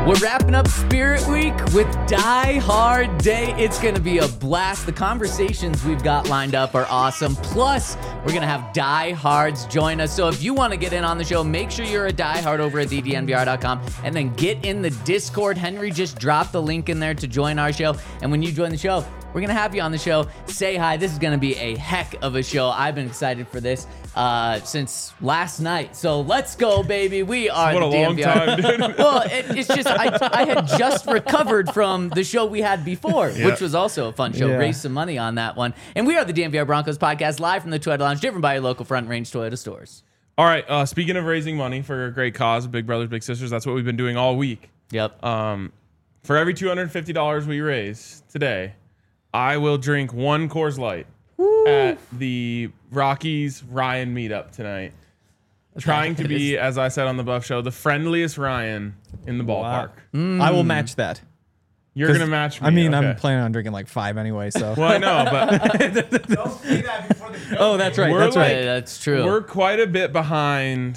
We're wrapping up Spirit Week with Die Hard Day. It's going to be a blast. The conversations we've got lined up are awesome. Plus, we're going to have Die Hards join us. So if you want to get in on the show, make sure you're a Die Hard over at thednvr.com and then get in the Discord. Henry just dropped the link in there to join our show. And when you join the show, we're going to have you on the show. Say hi. This is going to be a heck of a show. I've been excited for this since last night. So let's go, baby. We are what the a long time, dude. Well, it's just I had just recovered from the show we had before, which was also a fun show. Yeah. Raised some money on that one. And we are the DNVR Broncos podcast, live from the Toyota Lounge, driven by your local Front Range Toyota stores. All right. Speaking of raising money for a great cause, Big Brothers Big Sisters, that's what we've been doing all week. Yep. For every $250 we raise today, I will drink one Coors Light at the Rockies Ryan meetup tonight. Trying to be, as I said on the Buff Show, the friendliest Ryan in the ballpark. I will match that. You're going to match me. I mean, okay. I'm planning on drinking like 5 anyway, so. Well, I know, but Don't say that before the show. Oh, that's right. We're That's like- right. Yeah, that's true. we're quite a bit behind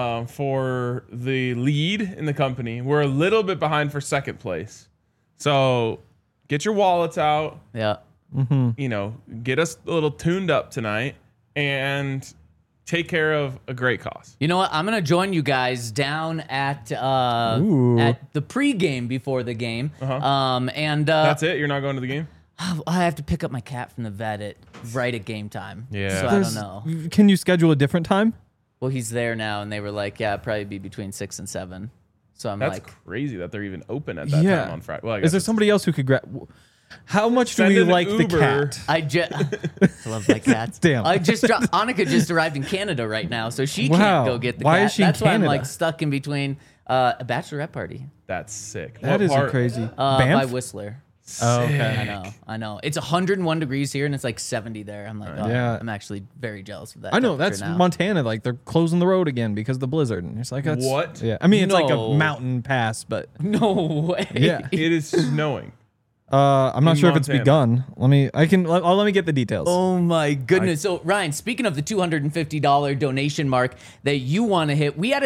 for the lead in the company. We're a little bit behind for second place. So get your wallets out. Yeah. You know, get us a little tuned up tonight and take care of a great cause. You know what? I'm gonna join you guys down at Ooh. the pregame before the game. And That's it? You're not going to the game? I have to pick up my cat from the vet right at game time. Yeah. So I don't know. Can you schedule a different time? Well, he's there now, and they were like, "Yeah, it'd probably be between 6 and 7." So I'm That's like, crazy that they're even open at that Yeah. time on Friday. Well, I Is guess there it's- somebody else who could grab? How much do Send we an like the Uber. cat? I love my cats. Damn. Annika just arrived in Canada right now, so she Wow. can't go get the Why cat. is she in That's why I'm Canada? like stuck in between a bachelorette party That's sick. That What is part? crazy. by Banff? Whistler. Oh, okay. I know. It's 101 degrees here, and it's like 70 there. I'm like, oh, Yeah. I'm actually very jealous of that. I know temperature that's now. Montana. Like they're closing the road again because of the blizzard. And it's like that's, What? Yeah, I mean it's like No. a mountain pass, but No way. yeah. It is snowing. I'm not In sure if it's Montana. begun. Let me get the details. Oh my goodness. So Ryan, speaking of the $250 donation mark that you want to hit, we had a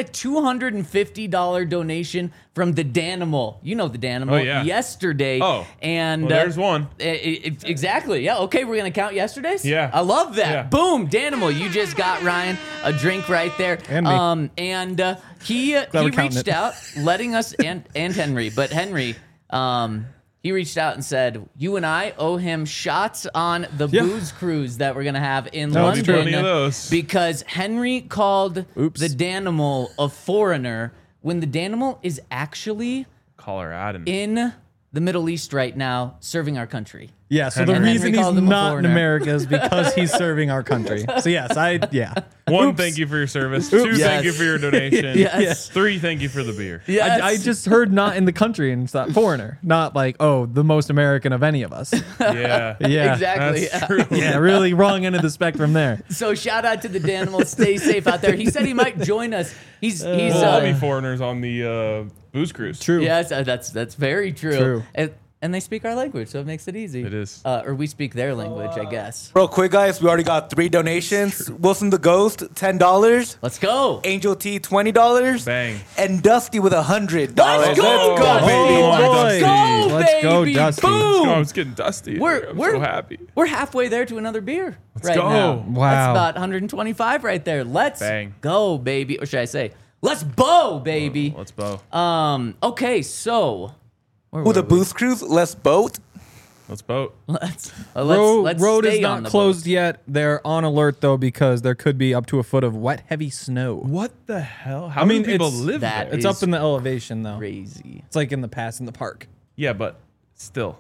$250 donation from the Danimal. You know the Danimal. Oh, yeah. Yesterday. Oh. And Well, there's one. Exactly. Yeah. Okay. We're going to count yesterday's. Yeah. I love that. Yeah. Boom. Danimal. You just got Ryan a drink right there. And me. And he we're counting reached it. out letting us and Henry, but Henry, he reached out and said, you and I owe him shots on the Yeah. booze cruise that we're going to have in No, it's London. true. Plenty of those. Because Henry called Oops. the Danimal a foreigner when the Danimal is actually Colorado. in the Middle East right now serving our country. Yeah, so the And Henry reason he's called him a not in foreigner. America is because he's serving our country. So yes, One, Oops. thank you for your service. Two, Yes. thank you for your donation. Yes. Three, thank you for the beer. Yes. I just heard not in the country and it's not foreigner, not like the most American of any of us. Yeah. Yeah, Exactly. That's yeah. true. Yeah, really wrong end of the spectrum there. So shout out to the Danimal. Stay safe out there. He said he might join us. He's We'll all be foreigners on the booze cruise. True. yes, that's very true. True. And they speak our language, so it makes it easy. It is. Or we speak their language, I guess. Real quick, guys, we already got 3 donations. Wilson the Ghost, $10. Let's go. Angel T, $20. Bang. And Dusty with $100. Let's go, Let's go, baby. boy. Let's go, Let's go, baby. Dusty. Boom. Oh, I was getting dusty. I'm so happy. We're halfway there to another beer right go. now. Wow. That's about 125 right there. Let's Bang. go, baby. Or should I say, let's bow, baby. Let's bow. Okay, so where Who the were we? booze cruise? Let's boat. Let's boat. Let's Road stay is on not the closed boat. yet. They're on alert though because there could be up to a foot of wet, heavy snow. What the hell? How I mean, many people it's- live that there? It's is up in the elevation though. Crazy. It's like in the pass in the park. Yeah, but still.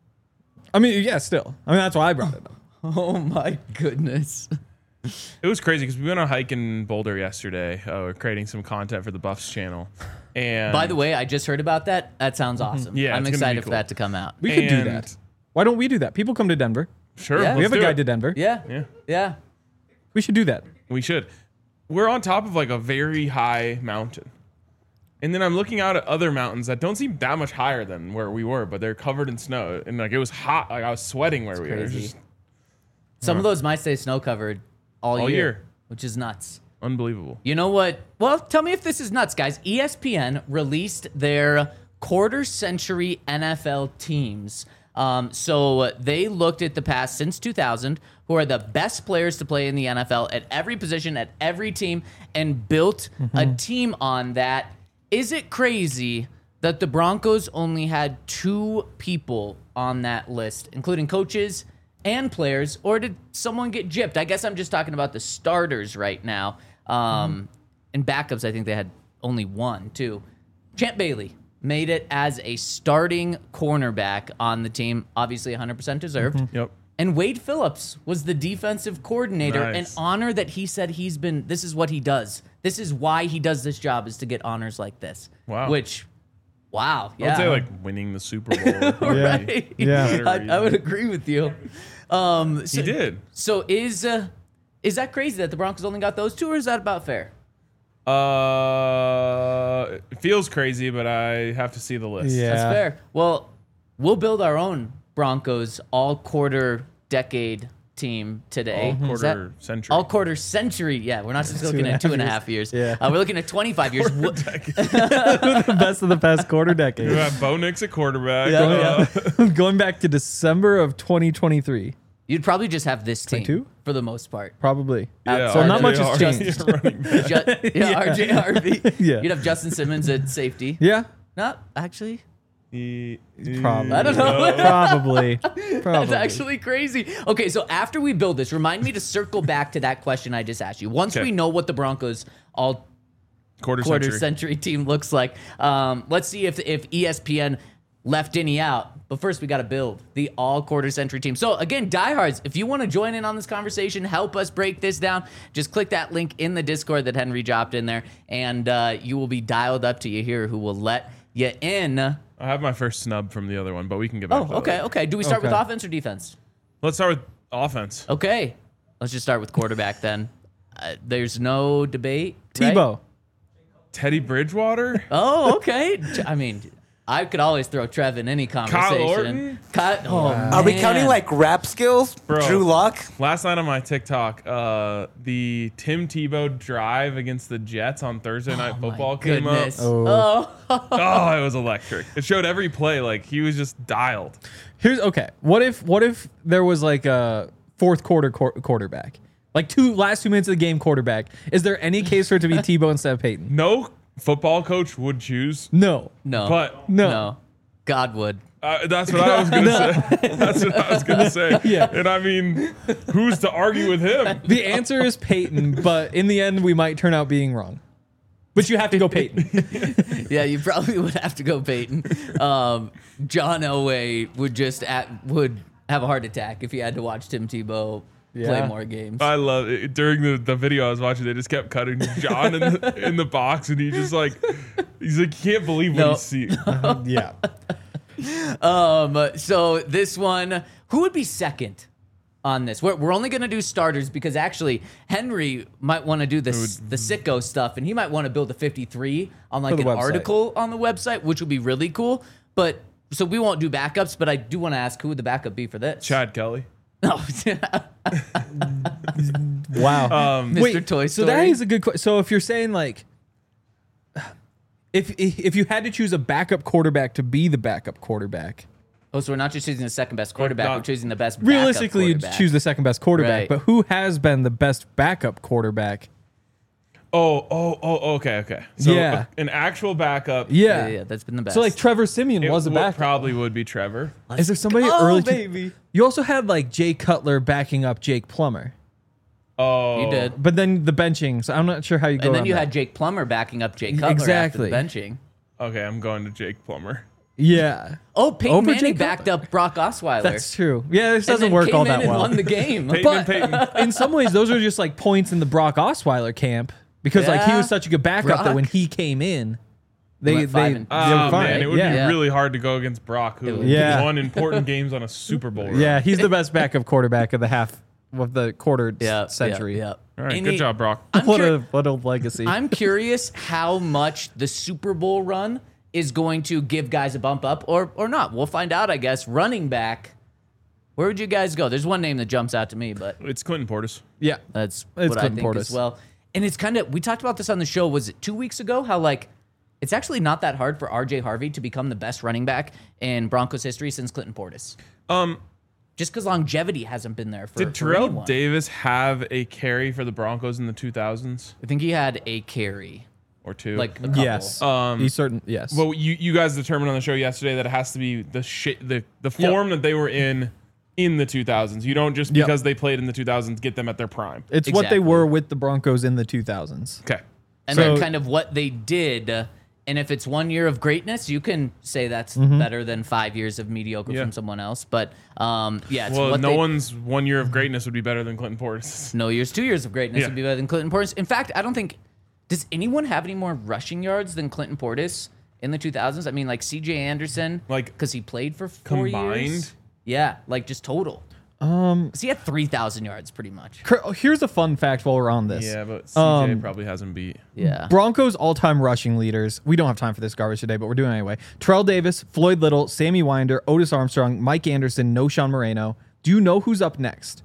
I mean, yeah, still. I mean, that's why I brought it up. Oh my goodness. It was crazy because we went on a hike in Boulder yesterday. We're creating some content for the Buffs channel. And By the way, I just heard about that. That sounds awesome. Yeah, I'm it's gonna be excited for cool. that to come out. We could do And- that. Why don't we do that? People come to Denver. sure, Yeah. We have a let's do guide it. to Denver. Yeah. Yeah, Yeah. We should do that. we should. We're on top of like a very high mountain. And then I'm looking out at other mountains that don't seem that much higher than where we were, but they're covered in snow. And like it was hot. Like I was sweating where we were. It was crazy. just Some of those might stay snow covered all All year, year. which is nuts. unbelievable. You know what? Well, tell me if this is nuts, guys. ESPN released their quarter century NFL teams. So they looked at the past since 2000, who are the best players to play in the NFL at every position, at every team, and built a team on that. Is it crazy that the Broncos only had 2 people on that list, including coaches and players, or did someone get gypped? I guess I'm just talking about the starters right now. And backups, I think they had only 1, too. Champ Bailey made it as a starting cornerback on the team, obviously 100% deserved. Yep. And Wade Phillips was the defensive coordinator, an Nice. honor that he said this is what he does. This is why he does this job, is to get honors like this. Wow. Which, wow. I would say like winning the Super Bowl. Right. Yeah. I would agree with you. So, He did. So is that crazy that the Broncos only got those 2, or is that about fair? It feels crazy, but I have to see the list. Yeah. That's fair. Well, we'll build our own Broncos all-quarter decade team today. All Is that- quarter century. All quarter century. Yeah, we're not just looking at 2.5 years. Yeah. We're looking at 25 years. The best of the past quarter We decade. have Bo Nix at quarterback. Yeah, Going back to December of 2023, You'd probably just have this team 22? for the most part. probably. Yeah, So not RJ much has Harvey changed. running back. RJ Harvey. Yeah. You'd have Justin Simmons at safety. Yeah, Not actually. probably. I don't know. Probably. That's actually crazy. Okay, so after we build this, remind me to circle back to that question I just asked you. Once Okay. we know what the Broncos all Quarter quarter century. century team looks like, let's see if ESPN left any out. But first, we got to build the all quarter century team. So again, diehards, if you want to join in on this conversation, help us break this down, just click that link in the Discord that Henry dropped in there, and you will be dialed up to you here who will let you in. I have my first snub from the other one, but we can get back Oh, to okay, that. okay. Do we start with Okay. offense or defense? Let's start with offense. Okay, let's just start with quarterback then. There's no debate. right? Tebow. Teddy Bridgewater? Oh, okay. I mean, I could always throw Trev in any conversation. Orton? Are we counting like rap skills? Bro. Drew Lock? Last night on my TikTok, the Tim Tebow drive against the Jets on Thursday Night Football came up. Goodness. Oh. Oh, it was electric. It showed every play. Like, he was just dialed. Here's okay. What if there was like a fourth quarter quarterback, like last 2 minutes of the game quarterback? Is there any case for it to be Tebow instead of Peyton? No football coach would choose, No. No. but No. God would. that's what I was going to say. That's what I was going to say. Yeah. And I mean, who's to argue with him? The answer is Peyton, but in the end, we might turn out being wrong. But you have to go Peyton. Yeah, you probably would have to go Peyton. John Elway would have a heart attack if he had to watch Tim Tebow play Yeah. more games. I love it. During the video I was watching, they just kept cutting John in the box, and he's like, can't believe what No. he's seeing. Yeah. So this one, who would be second on this? We're only going to do starters because actually Henry might want to do the sicko stuff, and he might want to build a 53 on like For an the website. article on the website, which would be really cool. But so we won't do backups, but I do want to ask who would the backup be for this? Chad Kelly. No. Wow. Mr. Toy So that Story. is a good question. So if you're saying like, if you had to choose a backup quarterback to be the backup quarterback, Oh, so we're not just choosing the second best quarterback, not- we're choosing the best realistically, backup you'd quarterback. choose the second best quarterback. Right. But who has been the best backup quarterback? Okay. So Yeah. an actual backup. Yeah. Yeah, that's been the best. So like Trevor Simeon It was a backup. probably would be Trevor. Is there somebody go, early? baby. You also had like Jay Cutler backing up Jake Plummer, Oh, you did. but then the benching. So I'm not sure how you go. And then around you that. had Jake Plummer backing up Jake Cutler Exactly. after the benching. Okay, I'm going to Jake Plummer. Yeah, Oh, Peyton Over Manning Jake backed Cutler. up Brock Osweiler. that's true. Yeah, this And doesn't then work came all in that and well. won the game. Peyton But and Peyton. in some ways, those are just like points in the Brock Osweiler camp because like he Yeah. was such a good backup that Brock. when he came in, they Went 5 they and- were Oh, fine. man, it would yeah. be really hard to go against Brock, who Yeah. won important games on a Super Bowl. run. Yeah, he's the best backup quarterback of the half of the quarter Yeah, century. Yeah. All right, And good he- job, Brock. What a legacy. I'm curious how much the Super Bowl run is going to give guys a bump up or not. We'll find out, I guess. Running back, where would you guys go? There's one name that jumps out to me, but It's Quentin Portis. yeah, that's It's what I Clinton think Portis. as well. And it's kind of, we talked about this on the show, was it 2 weeks ago? How like, it's actually not that hard for RJ Harvey to become the best running back in Broncos history since Clinton Portis. Just because longevity hasn't been there for Did Terrell anyone. Davis have a carry for the Broncos in the 2000s I think he had a carry, or two? like a couple. Yes. Yes. well, you guys determined on the show yesterday that it has to be the form that they were in the 2000s. You don't just because they played in the 2000s get them at their prime. It's what they Exactly. were with the Broncos in the 2000s. Okay. And So- then kind of what they did. And if it's 1 year of greatness, you can say that's better than 5 years of mediocre Yeah. from someone else. But it's Well, what no they, one's 1 year of greatness would be better than Clinton Portis. no years, 2 years of greatness Yeah. would be better than Clinton Portis. In fact, I don't think does anyone have any more rushing yards than Clinton Portis in the 2000s? I mean, like C.J. Anderson, Like, because he played for 4 combined? years. Yeah, like just total. So he had 3,000 yards pretty much. Here's a fun fact while we're on this. Yeah, but CJ probably hasn't beat. Yeah. Broncos all-time rushing leaders. We don't have time for this garbage today, but we're doing it anyway. Terrell Davis, Floyd Little, Sammy Winder, Otis Armstrong, Mike Anderson, Noshawn Moreno. Do you know who's up next?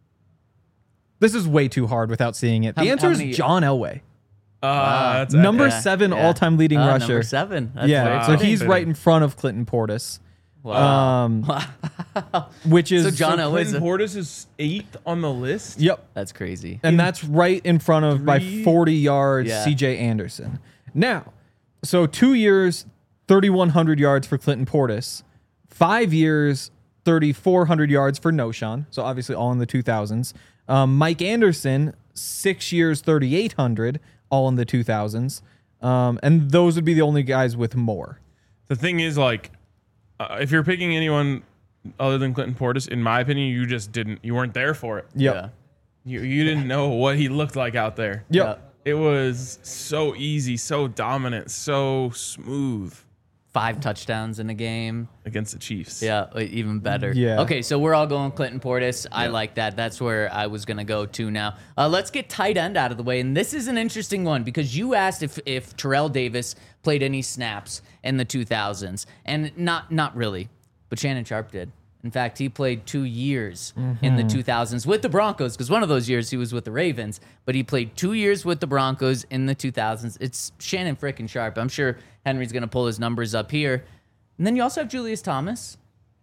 This is way too hard without seeing it. The How answer is many- John Elway. That's Number Yeah, 7 yeah. all-time leading rusher. Number 7. That's Yeah, very so funny. he's fitting. right in front of Clinton Portis. Wow. Which is So John Elway's Clinton Portis is 8th on the list. Yep. That's crazy. And that's right in front of by 40 yards Yeah. CJ Anderson. Now, so 2 years, 3,100 yards for Clinton Portis, 5 years, 3,400 yards for Noshawn. So obviously all in the 2000s. Mike Anderson, 6 years, 3,800, all in the 2000s. And those would be the only guys with more. The thing is, like, if you're picking anyone other than Clinton Portis, in my opinion, you weren't there for it. Yep. You didn't know what he looked like out there. Yep. It was so easy, so dominant, so smooth 5 touchdowns in a game. against the Chiefs. Yeah, even better. Yeah. Okay, so we're all going Clinton Portis. I like that. That's where I was going to go to now. Let's get tight end out of the way. And this is an interesting one because you asked if Terrell Davis played any snaps in the 2000s. And not really, but Shannon Sharp did. In fact, he played 2 years in the 2000s with the Broncos because one of those years he was with the Ravens, but he played 2 years with the Broncos in the 2000s. It's Shannon frickin' Sharp. I'm sure Henry's going to pull his numbers up here. And then you also have Julius Thomas.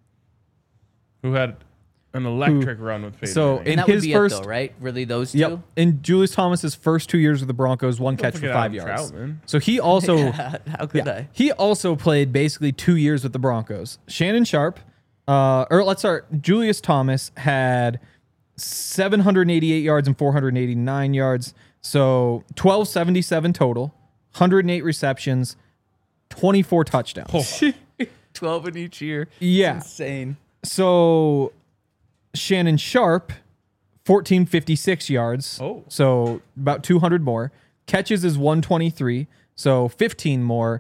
Who had an electric run with Peyton So Manning. in And that would his be first, it, though, right? Really, those two? yep. In Julius Thomas's first 2 years with the Broncos, one catch for forget 5 Adam yards. Troutman. So he also How could I? he also played basically 2 years with the Broncos. Shannon Sharp, or let's start. Julius Thomas had 788 yards and 489 yards. So 1277 total, 108 receptions, 24 touchdowns. 12 in each year. Yeah. Insane. So Shannon Sharp, 1456 yards. Oh. So about 200 more. Catches is 123. So 15 more.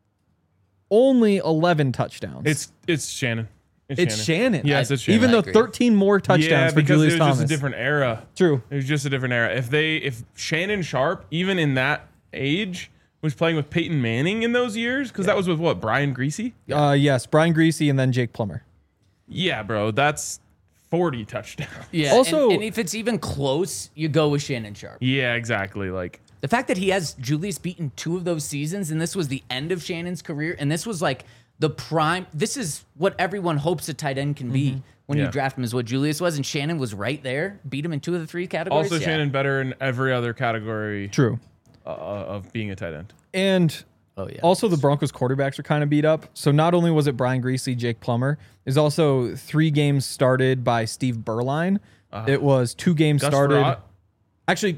Only 11 touchdowns. It's Shannon. It's Shannon. Yes, it's Shannon. Even I though agree. 13 more Yeah, touchdowns for because Julius it was Thomas. just a different era. True. It was just a different era. If Shannon Sharp, even in that age, was playing with Peyton Manning in those years, because that was with what, Brian Greasy? Yes, Brian Greasy and then Jake Plummer. Yeah, bro, that's 40 touchdowns. Yeah. Also- and if it's even close, you go with Shannon Sharp. Yeah, exactly. Like, The fact that he has Julius beaten 2 of those seasons, and this was the end of Shannon's career, and this was like the prime. This is what everyone hopes a tight end can be when you Yeah. draft him, is what Julius was, and Shannon was right there, beat him in 2 of the 3 categories. also Yeah. Shannon better in every other category True. of being a tight end. And Oh yeah. also the Broncos quarterbacks are kind of beat up. So not only was it Brian Greasy, Jake Plummer, there's also 3 games started by Steve Berline. It was 2 games Gus started. Frerotte? Actually,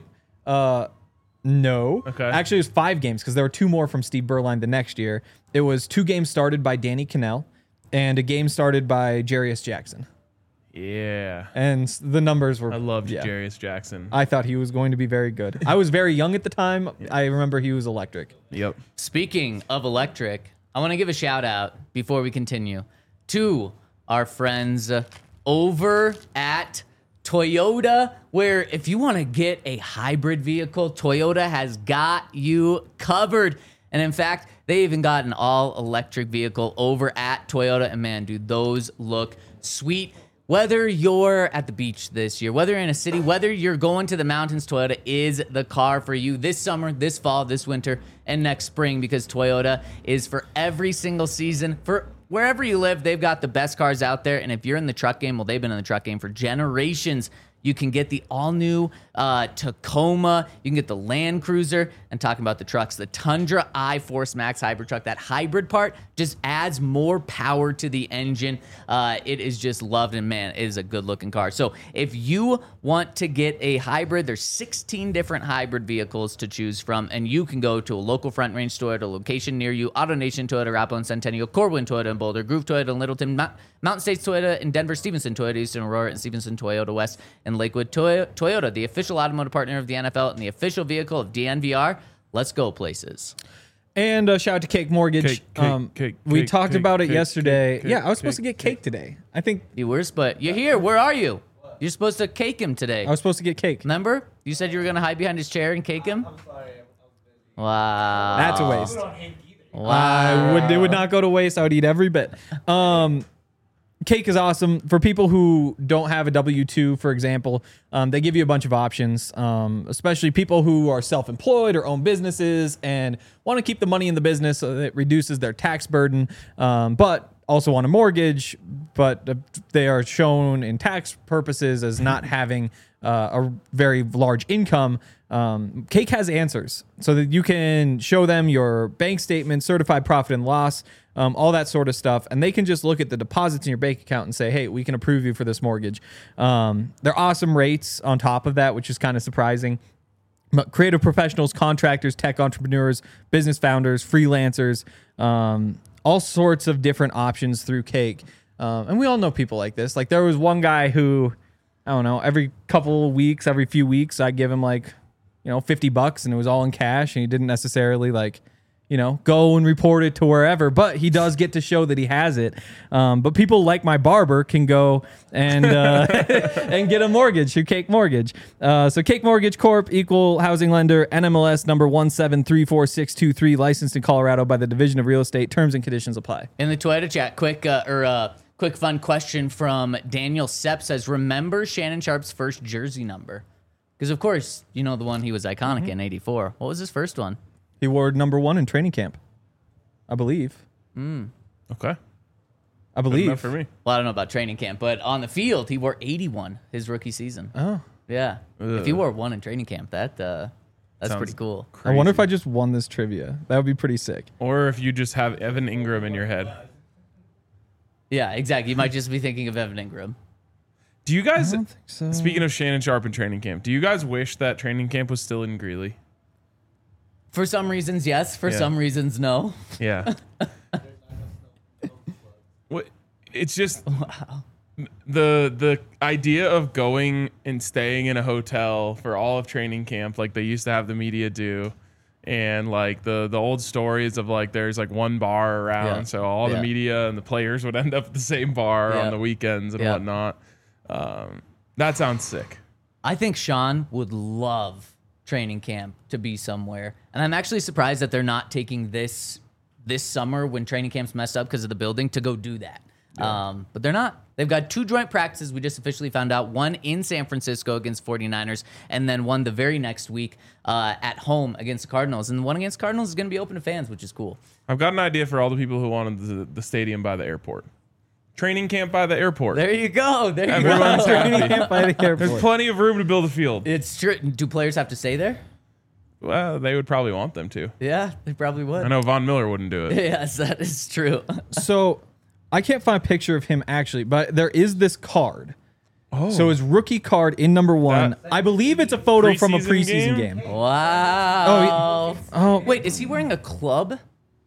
no. Okay. Actually, it was 5 games because there were 2 more from Steve Berline the next year. It was 2 games started by Danny Cannell and a game started by Jarius Jackson. Yeah. And the numbers were. I loved yeah. Jarius Jackson. I thought he was going to be very good. I was very young at the time. I remember he was electric. Yep. Speaking of electric, I want to give a shout out before we continue to our friends over at Toyota, where if you want to get a hybrid vehicle, Toyota has got you covered. And in fact, they even got an all-electric vehicle over at Toyota. And man, dude, those look sweet. Whether you're at the beach this year, whether you're in a city, whether you're going to the mountains, Toyota is the car for you this summer, this fall, this winter, and next spring, because Toyota is for every single season. For wherever you live, they've got the best cars out there. And if you're in the truck game, well, they've been in the truck game for generations. You can get the all-new Tacoma. You can get the Land Cruiser. And talking about the trucks, the Tundra iForce Max hybrid truck, that hybrid part just adds more power to the engine. It is just loved, and man, it is a good-looking car. So if you want to get a hybrid, there's 16 different hybrid vehicles to choose from, and you can go to a local Front Range Toyota location near you, AutoNation Toyota, Arapahoe and Centennial, Corwin Toyota in Boulder, Groove Toyota in Littleton, Mountain States Toyota in Denver, Stevenson Toyota, Eastern Aurora, and Stevenson Toyota West in Lakewood. Toyota, the official automotive partner of the NFL and the official vehicle of DNVR. Let's go places. And shout out to Cake Mortgage. We talked about it yesterday. I was supposed to get cake today. I think You were, but you're here. Where are you? You're supposed to cake him today. I was supposed to get cake. Remember? You said you were going to hide behind his chair and cake him? I'm sorry. Wow. That's a waste. Wow. It would not go to waste. I would eat every bit. Cake is awesome. For people who don't have a W-2, for example, they give you a bunch of options, especially people who are self-employed or own businesses and want to keep the money in the business so that it reduces their tax burden, but also want a mortgage, but they are shown in tax purposes as not having a very large income. Cake has answers so that you can show them your bank statement, certified profit and loss, all that sort of stuff. And they can just look at the deposits in your bank account and say, hey, we can approve you for this mortgage. They're awesome rates on top of that, which is kind of surprising. But creative professionals, contractors, tech entrepreneurs, business founders, freelancers, all sorts of different options through Cake. And we all know people like this. Like there was one guy who, I don't know, every couple of weeks, every few weeks, I'd give him like, $50 and it was all in cash, and he didn't necessarily go and report it to wherever, but he does get to show that he has it. But people like my barber can go and and get a mortgage through Cake Mortgage. So Cake Mortgage Corp, equal housing lender, NMLS number 1734623, licensed in Colorado by the Division of Real Estate. Terms and conditions apply. In the Toyota chat, quick fun question from Daniel Sepp says, remember Shannon Sharp's first jersey number? Because, of course, the one he was iconic in, 84. What was his first one? He wore number 1 in training camp, I believe. Okay. I believe. Enough for me. Well, I don't know about training camp, but on the field, he wore 81 his rookie season. Oh. Yeah. Ugh. If he wore 1 in training camp, that's Sounds pretty cool. I wonder if I just won this trivia. That would be pretty sick. Or if you just have Evan Ingram in your head. Yeah, exactly. You might just be thinking of Evan Ingram. Do you guys, I don't think so. speaking of Shannon Sharp and training camp, do you guys wish that training camp was still in Greeley? For some reasons, yes. For Yeah. some reasons, no. Yeah. It's just the idea of going and staying in a hotel for all of training camp, like they used to have the media do, and like the old stories of like there's like one bar around, Yeah. so all the Yeah. media and the players would end up at the same bar Yeah. on the weekends and Yeah. whatnot. That sounds sick. I think Sean would love training camp to be somewhere. And I'm actually surprised that they're not taking this summer when training camp's messed up because of the building to go do that. But they're not. They've got 2 joint practices. We just officially found out. One in San Francisco against 49ers, and then one the very next week at home against the Cardinals. And the one against Cardinals is going to be open to fans, which is cool. I've got an idea for all the people who wanted the stadium by the airport. Training camp by the airport. There you go. There you Everyone's go. happy. Camp by the airport. There's plenty of room to build a field. It's true. Do players have to stay there? Well, they would probably want them to. Yeah, they probably would. I know Von Miller wouldn't do it. Yes, that is true. So I can't find a picture of him actually, but there is this card. Oh. So his rookie card in number 1. That- I believe it's a photo from a Preseason preseason game? game. Wow. Oh, Wait, is he wearing a club?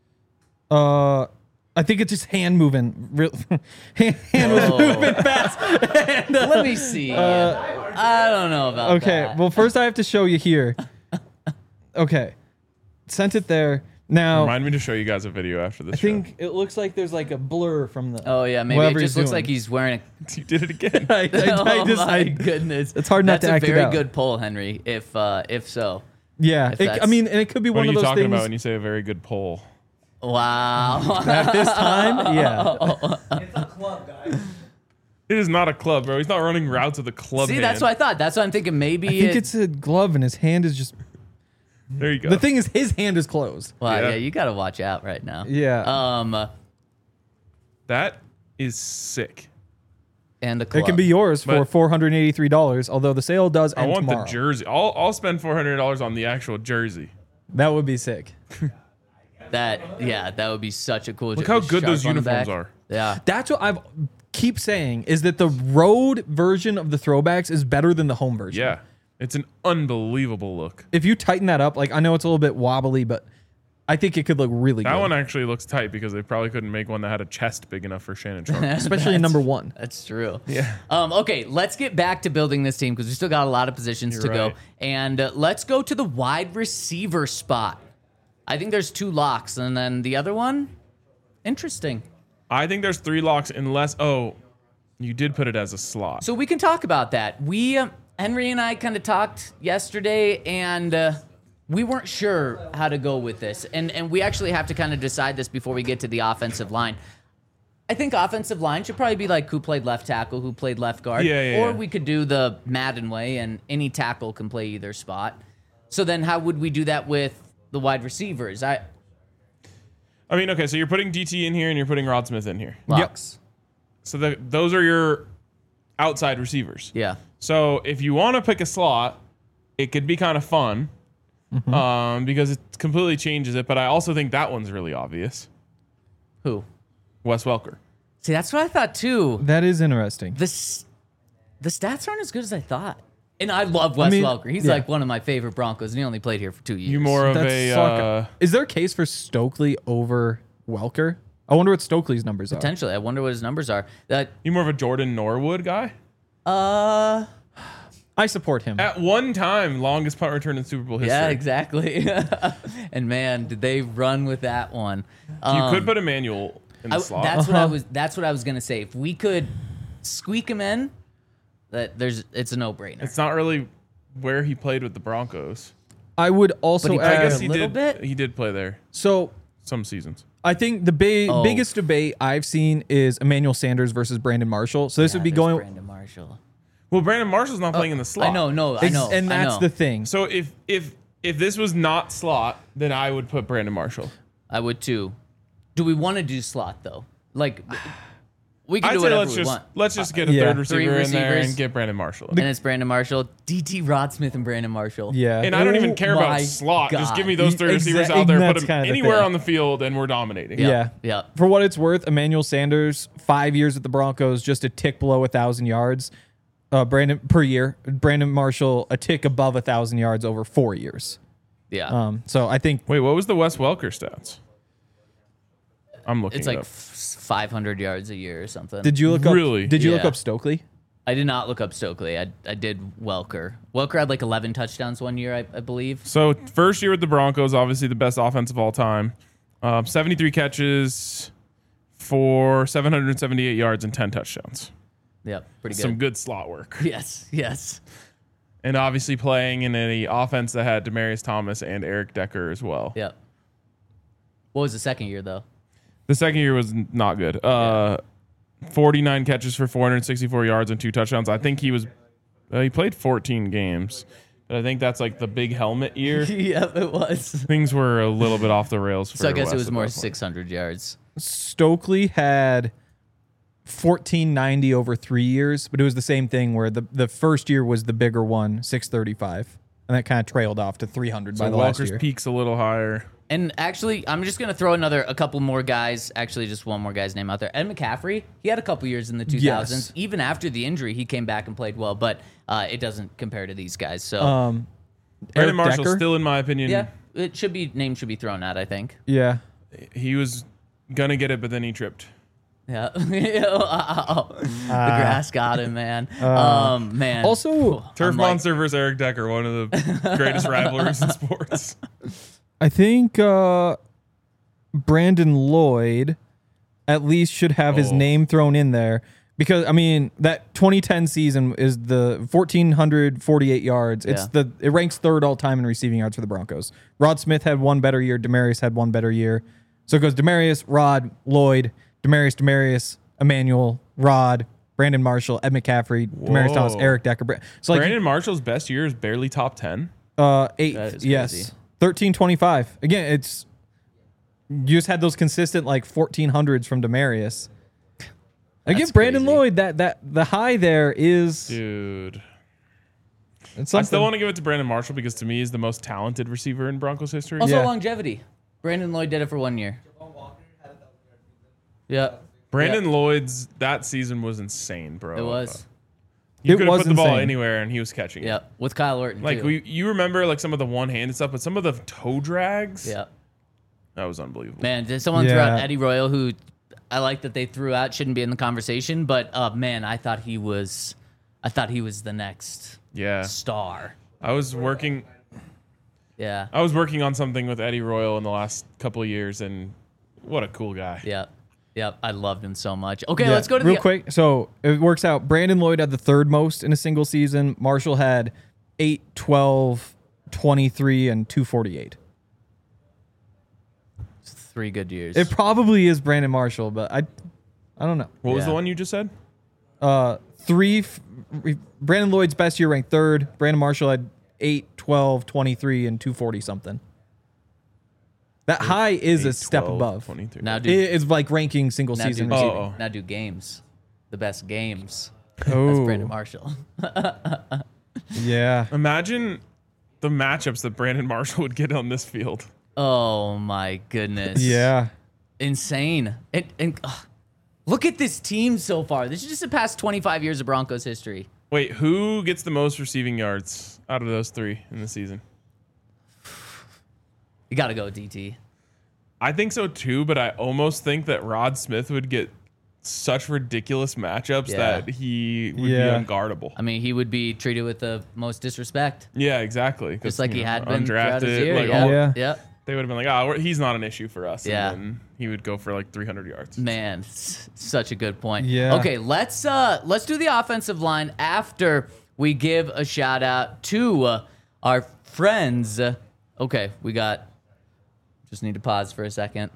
I think it's just hand moving. Hand was moving fast. Let me see. I don't know about Okay, that. well, first I have to show you here. Okay, sent it there. Now, Remind me to show you guys a video after this I think it looks like there's like a blur from the. Oh yeah, maybe it whatever just he's looks doing. like he's wearing a. show. You did it again. Oh my goodness, it's hard not That's to act a it very out. good poll, Henry. If so, Yeah, if I that's- mean, and it could be What one are of you those talking things. about when you say a very good poll? wow. At this time, yeah. It's a club, guys. It is not a club, bro. He's not running routes with a club See, hand. that's what I thought. That's what I'm thinking. Maybe I think it's a glove, and his hand is just. There you go. The thing is, his hand is closed. Well, Yeah. yeah, you got to watch out right now. Yeah. That is sick. And a club. It can be yours for But- $483, although the sale does I end want tomorrow. the jersey. I'll spend $400 on the actual jersey. That would be sick. That would be such a cool. Look how good those uniforms are. Yeah. That's what I've keep saying is that the road version of the throwbacks is better than the home version. Yeah. It's an unbelievable look. If you tighten that up, like I know it's a little bit wobbly, but I think it could look really That good. one actually looks tight because they probably couldn't make one that had a chest big enough for Shannon Sharp. especially in number 1. That's true. Yeah. Okay, let's get back to building this team because we still got a lot of positions to go. right. And let's go to the wide receiver spot. I think there's 2 locks, and then the other one, interesting. I think there's 3 locks unless, you did put it as a slot. So we can talk about that. We, Henry and I kind of talked yesterday, and we weren't sure how to go with this. And we actually have to kind of decide this before we get to the offensive line. I think offensive line should probably be like who played left tackle, who played left guard. Yeah. Or we could do the Madden way, and any tackle can play either spot. So then how would we do that with the wide receivers? I mean, okay, so you're putting DT in here and you're putting Rod Smith in here. Locks. So those are your outside receivers. Yeah. So if you want to pick a slot, it could be kind of fun because it completely changes it. But I also think that one's really obvious. Who? Wes Welker. See, that's what I thought too. That is interesting. The stats aren't as good as I thought. And I love Wes Welker. He's yeah. like one of my favorite Broncos, and he only played here for 2 years. You more of That's a is there a case for Stokely over Welker? I wonder what Stokely's numbers are. Potentially. I wonder what his numbers are. you more of a Jordan Norwood guy. I support him. At one time, longest punt return in Super Bowl history. Yeah, exactly. And man, did they run with that one. You could put Emmanuel in the slot. That's what I was gonna say. If we could squeak him in, it's a no-brainer. It's not really where he played with the Broncos. I would also But he I played add. guess he little did. bit? He did play there So some seasons. I think the biggest debate I've seen is Emmanuel Sanders versus Brandon Marshall. So this would be There's going. Brandon Marshall. Well, Brandon Marshall's not playing in the slot. I know, I know. and I that's know. the thing. So if this was not slot, then I would put Brandon Marshall. I would too. Do we want to do slot though? Like, we can I'd do say whatever we want. let's just get a Yeah. third 3 receiver in there receivers. and get Brandon Marshall. And it's Brandon Marshall, DT Rod Smith, and Brandon Marshall. Yeah. And I don't even Oh care about my slot. Just give me God. those three receivers out there, That's put kinda them the anywhere thing. on the field, and we're dominating. Yeah. Yeah. For what it's worth, Emmanuel Sanders, 5 years at the Broncos, just a tick below 1,000 yards. Brandon per year. Brandon Marshall, a tick above 1,000 yards over 4 years. Yeah. So I think Wait, what was the Wes Welker stats? I'm looking It's it like up. 500 yards a year or something. did you look up? Really? Did you look Yeah. up Stokely? I did not look up Stokely. I did Welker. Welker had like 11 touchdowns one year, I believe. So first year with the Broncos, obviously the best offense of all time. 73 catches for 778 yards and 10 touchdowns. Yep, pretty good. Some good slot work. Yes. And obviously playing in an offense that had Demaryius Thomas and Eric Decker as well. Yep. What was the second year though? The second year was not good. 49 catches for 464 yards and 2 touchdowns. I think he played 14 games. But I think that's like the big helmet year. Yep, it was. Things were a little bit off the rails for So I guess Wes it was at more that point. 600 yards. Stokely had 1490 over 3 years, but it was the same thing where the first year was the bigger one, 635, and that kind of trailed off to 300 by So the last Walker's year. peak's a little higher. And actually, I'm just going to throw a couple more guys, actually just one more guy's name out there. Ed McCaffrey, he had a couple years in the 2000s. Yes. Even after the injury, he came back and played well, but it doesn't compare to these guys. So, Brandon Eric Marshall, Decker? still in my opinion, yeah, name should be thrown out, I think. Yeah. he was going to get it, but then he tripped. Yeah. Wow. The grass got him, man. Man. Also, Turf I'm like- Monster versus Eric Decker, one of the greatest rivalries in sports. I think Brandon Lloyd at least should have his Oh. name thrown in there because I mean that 2010 season is the 1,448 yards. It ranks third all time in receiving yards for the Broncos. Rod Smith had one better year. Demaryius had one better year. So it goes Demaryius, Rod, Lloyd, Demaryius, Emmanuel, Rod, Brandon Marshall, Ed McCaffrey, Demaryius Thomas, Whoa. Eric Decker. So like Brandon Marshall's best year is barely top 10. 8th, That is yes, crazy. 1325. Again, it's you just had those consistent like 1400s from Demaryius. Again, That's Brandon crazy. Lloyd, that the high there is Dude. it's I something. still want to give it to Brandon Marshall because to me he's the most talented receiver in Broncos history. Also Yeah. longevity. Brandon Lloyd did it for 1 year. Yeah, Brandon Lloyd's that season was insane, bro. it was. You It could have was put the ball insane. anywhere and he was catching it. Yeah, with Kyle Orton. Like too. you remember like some of the one-handed stuff, but some of the toe drags, Yeah, that was unbelievable. man. Did someone throw out Eddie Royal, who I like that they threw out, shouldn't be in the conversation, but man, I thought he was the next Yeah, star. I was working Yeah, on something with Eddie Royal in the last couple of years, and what a cool guy. yeah, yeah. I loved him so much. Okay, Yeah, let's go to real the quick. So it works out. Brandon Lloyd had the third most in a single season. Marshall had 8, 12, 23, and 248. 3 good years. It probably is Brandon Marshall, but I don't know. What was Yeah. the one you just said? Brandon Lloyd's best year ranked third. Brandon Marshall had 8, 12, 23, and 240 something. That high is a 8, step 12, above. 23. now do It's like ranking single now do, season. Oh, receiving. oh. now do games, the best games. Oh, That's Brandon Marshall. yeah. Imagine the matchups that Brandon Marshall would get on this field. Oh my goodness. Yeah. Insane. And look at this team so far. This is just the past 25 years of Broncos history. Wait, who gets the most receiving yards out of those 3 in the season? You got to go with DT. I think so too, but I almost think that Rod Smith would get such ridiculous matchups Yeah. that he would Yeah. be unguardable. I mean, he would be treated with the most disrespect, Yeah, exactly. 'Cause, just like he you know, had been throughout his year. like, Yeah. all- Yeah. Yeah. they would have been like, "Oh, he's not an issue for us." Yeah. And then he would go for like 300 yards. Man, such a good point. Yeah. Okay, let's do the offensive line after we give a shout out to our friends. Okay, we got. Just need to pause for a second.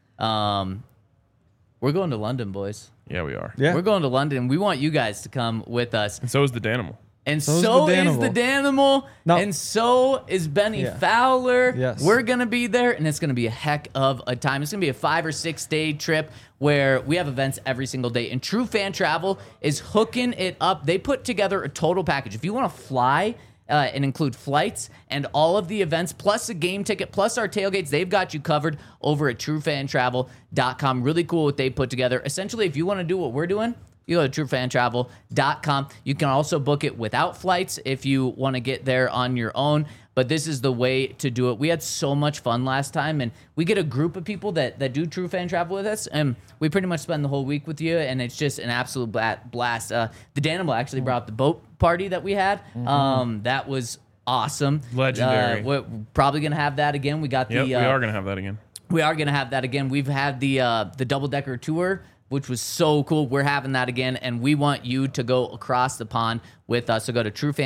We're going to London, boys. Yeah, we are. Yeah. We're going to London. We want you guys to come with us. And so is the Danimal. And So is so the is the Danimal. No. And so is Benny Yeah. Fowler. Yes. We're going to be there, and it's going to be a heck of a time. It's going to be a 5 or 6 day trip where we have events every single day. And True Fan Travel is hooking it up. They put together a total package. If you want to fly, and include flights and all of the events, plus a game ticket, plus our tailgates. They've got you covered over at truefantravel.com. Really cool what they put together. Essentially, if you want to do what we're doing, you go to truefantravel.com. You can also book it without flights if you want to get there on your own. But this is the way to do it. We had so much fun last time, and we get a group of people that do True Fan Travel with us, and we pretty much spend the whole week with you, and it's just an absolute blast. The Danimal actually brought up the boat party that we had. That was awesome. Legendary. We're probably going to have that again. We got Yep, the we are going to have that again. we are going to have that again. We've had the double-decker tour, which was so cool. We're having that again, and we want you to go across the pond with us. So go to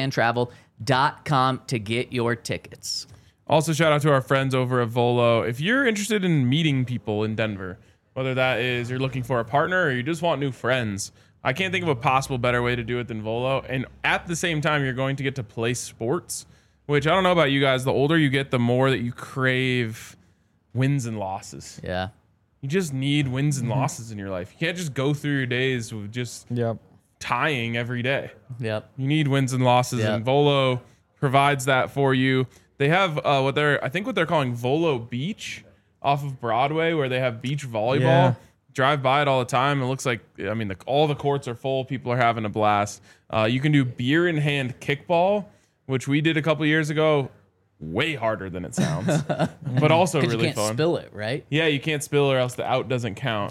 truefantravel.com to get your tickets. Also, shout out to our friends over at Volo. If you're interested in meeting people in Denver, whether that is you're looking for a partner or you just want new friends, I can't think of a possible better way to do it than Volo. And at the same time, you're going to get to play sports, which I don't know about you guys. The older you get, the more that you crave wins and losses. Yeah. You just need wins and losses in your life. You can't just go through your days with just Yep. tying every day. Yep. You need wins and losses, Yeah. and Volo provides that for you. They have what they're calling Volo Beach off of Broadway, where they have beach volleyball. Yeah. Drive by it all the time. It looks like all the courts are full. People are having a blast. You can do beer in hand kickball, which we did a couple years ago. Way harder than it sounds, but also Because really you can't fun. spill it, right? Yeah, you can't spill or else the out doesn't count.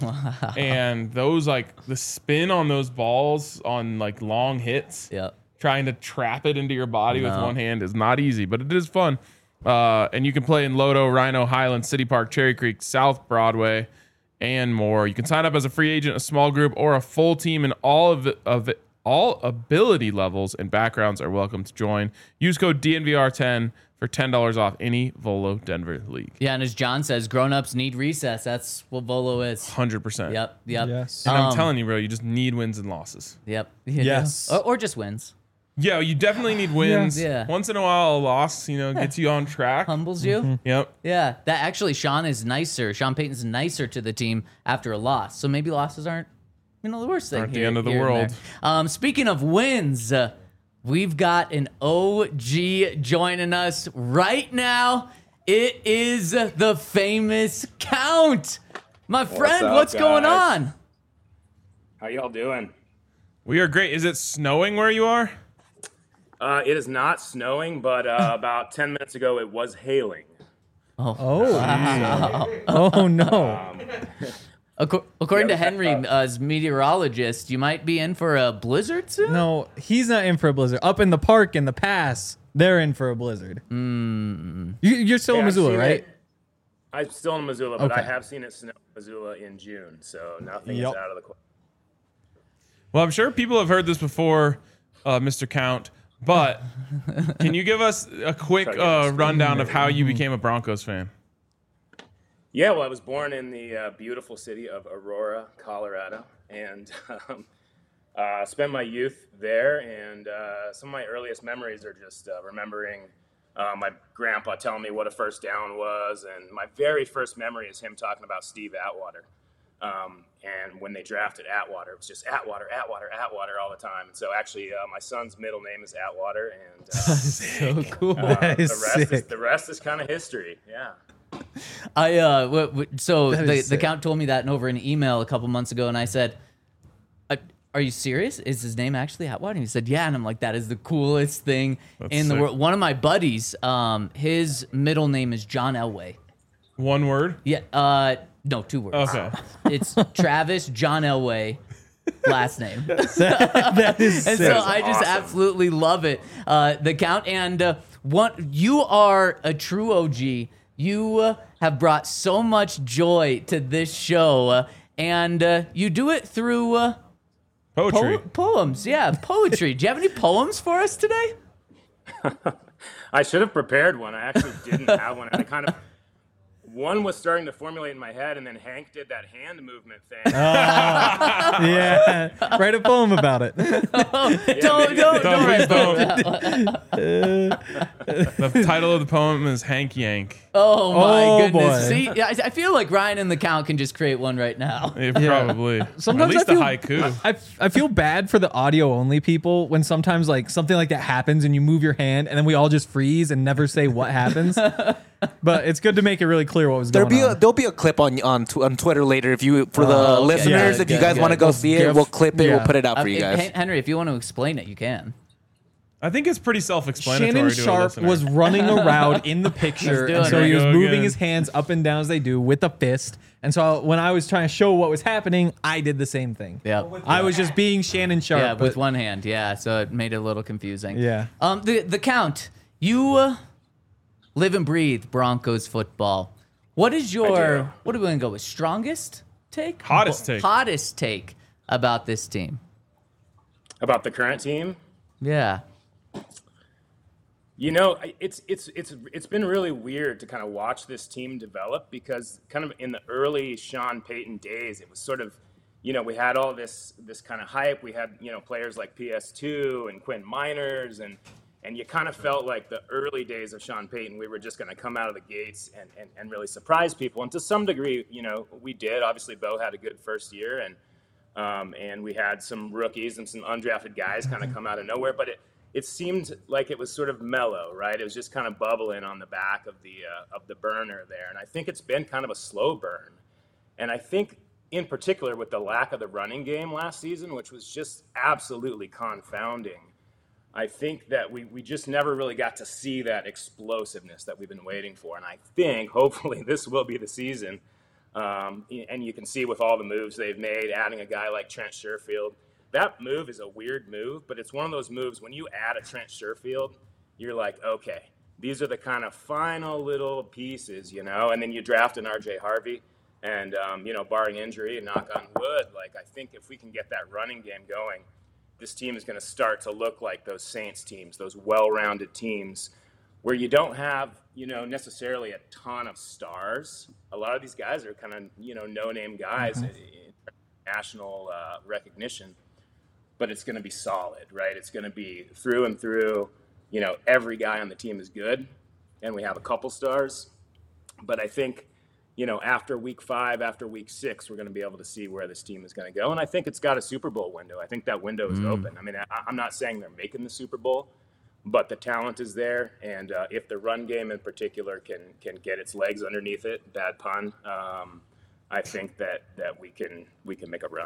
And those the spin on those balls on long hits, Yep. trying to trap it into your body with No. one hand is not easy, but it is fun. And you can play in Lodo, Rhino, Highland, City Park, Cherry Creek, South Broadway, and more. You can sign up as a free agent, a small group, or a full team in all of All ability levels and backgrounds are welcome to join. Use code DNVR10 for $10 off any Volo Denver league. Yeah, and as John says, grown-ups need recess. That's what Volo is. 100%. Yep. Yes. And I'm telling you, bro, you just need wins and losses. Yep. Yes. Or just wins. Yeah, you definitely need wins. Yeah. Once in a while, a loss, gets you on track. Humbles you. Yep. Yeah. That actually, Sean Payton's nicer to the team after a loss. So maybe losses aren't, the worst thing Aren't the here, end of the here and world. there. Speaking of wins, we've got an OG joining us right now. It is the famous Count. My friend, up, what's going guys? on? How y'all doing? We are great. Is it snowing where you are? It is not snowing, but about 10 minutes ago it was hailing. Oh no. According to Henry, as meteorologist, you might be in for a blizzard soon? No, he's not in for a blizzard. Up in the park in the pass, they're in for a blizzard. You're still in I've Missoula, seen right? it- I'm still in Missoula, but I Okay. have seen it snow in Missoula in June, so nothing Yep. is out of the question. Well, I'm sure people have heard this before, Mr. Count, but can you give us a quick rundown of how you became a Broncos fan? Yeah, well, I was born in the beautiful city of Aurora, Colorado, and spent my youth there. And some of my earliest memories are just remembering my grandpa telling me what a first down was. And my very first memory is him talking about Steve Atwater. And when they drafted Atwater, it was just Atwater all the time. And so actually, my son's middle name is Atwater, and So cool. That is sick. the rest is kind of history. Yeah. So That is the sick. Count told me that over an email a couple months ago, and I said, "Are you serious? Is his name actually Atwater?" And he said, "Yeah." And I'm like, "That is the coolest thing in the sick. world." One of my buddies, his middle name is John Elway. One word? Yeah. No, 2 words. Okay. It's Travis John Elway, last name. That is And sick. so I just awesome. absolutely love it. The Count, and you are a true OG. You have brought so much joy to this show, and you do it through Poetry. poems. Yeah, poetry. Do you have any poems for us today? I should have prepared one. I actually didn't have one. And one was starting to formulate in my head, and then Hank did that hand movement thing. Yeah. Write a poem about it. Don't write don't. that. The title of the poem is Hank Yank. Oh my Oh, goodness! boy. See, I feel like Ryan and the Count can just create one right now. Probably. Sometimes At least I feel, a haiku. I feel bad for the audio only people when sometimes like something like that happens and you move your hand and then we all just freeze and never say what happens. But it's good to make it really clear what was going on. There'll be a clip on Twitter later if you for the okay. listeners. Yeah, if you good, guys good. want to go see it, we'll clip it. Yeah. We'll put it out for you guys. Henry, if you want to explain it, you can. I think it's pretty self-explanatory Shannon to a Sharp listener. was running around in the picture, Let's do and it. so There he you was go moving again. his hands up and down as they do with a fist. And so when I was trying to show what was happening, I did the same thing. Yeah. I was just being Shannon Sharp. Yeah, with but- one hand. Yeah, so it made it a little confusing. Yeah. The Count, you live and breathe Broncos football. What is your, what are we going to go with? Strongest take? Hottest take. Hottest take about this team. About the current team, Yeah. it's been really weird to kind of watch this team develop because kind of in the early Sean Payton days, it was sort of, we had all this kind of hype. We had, players like PS2 and Quinn Miners, and you kind of felt like the early days of Sean Payton, we were just going to come out of the gates and really surprise people. And to some degree, we did. Obviously, Bo had a good first year, and we had some rookies and some undrafted guys kind of come out of nowhere, but it seemed like it was sort of mellow, right? It was just kind of bubbling on the back of the burner there. And I think it's been kind of a slow burn. And I think in particular with the lack of the running game last season, which was just absolutely confounding, I think that we just never really got to see that explosiveness that we've been waiting for. And I think hopefully this will be the season. And you can see with all the moves they've made, adding a guy like Trent Sherfield, that move is a weird move, but it's one of those moves when you add a Trent Sherfield, you're like, okay, these are the kind of final little pieces, and then you draft an RJ Harvey and, barring injury and knock on wood, like I think if we can get that running game going, this team is going to start to look like those Saints teams, those well-rounded teams where you don't have, necessarily a ton of stars. A lot of these guys are kind of, no-name guys in national recognition, but it's going to be solid, right? It's going to be through and through, every guy on the team is good, and we have a couple stars. But I think, after week 5, after week 6, we're going to be able to see where this team is going to go. And I think it's got a Super Bowl window. I think that window is open. I mean, I'm not saying they're making the Super Bowl, but the talent is there. And if the run game in particular can get its legs underneath it, bad pun, I think that we can make a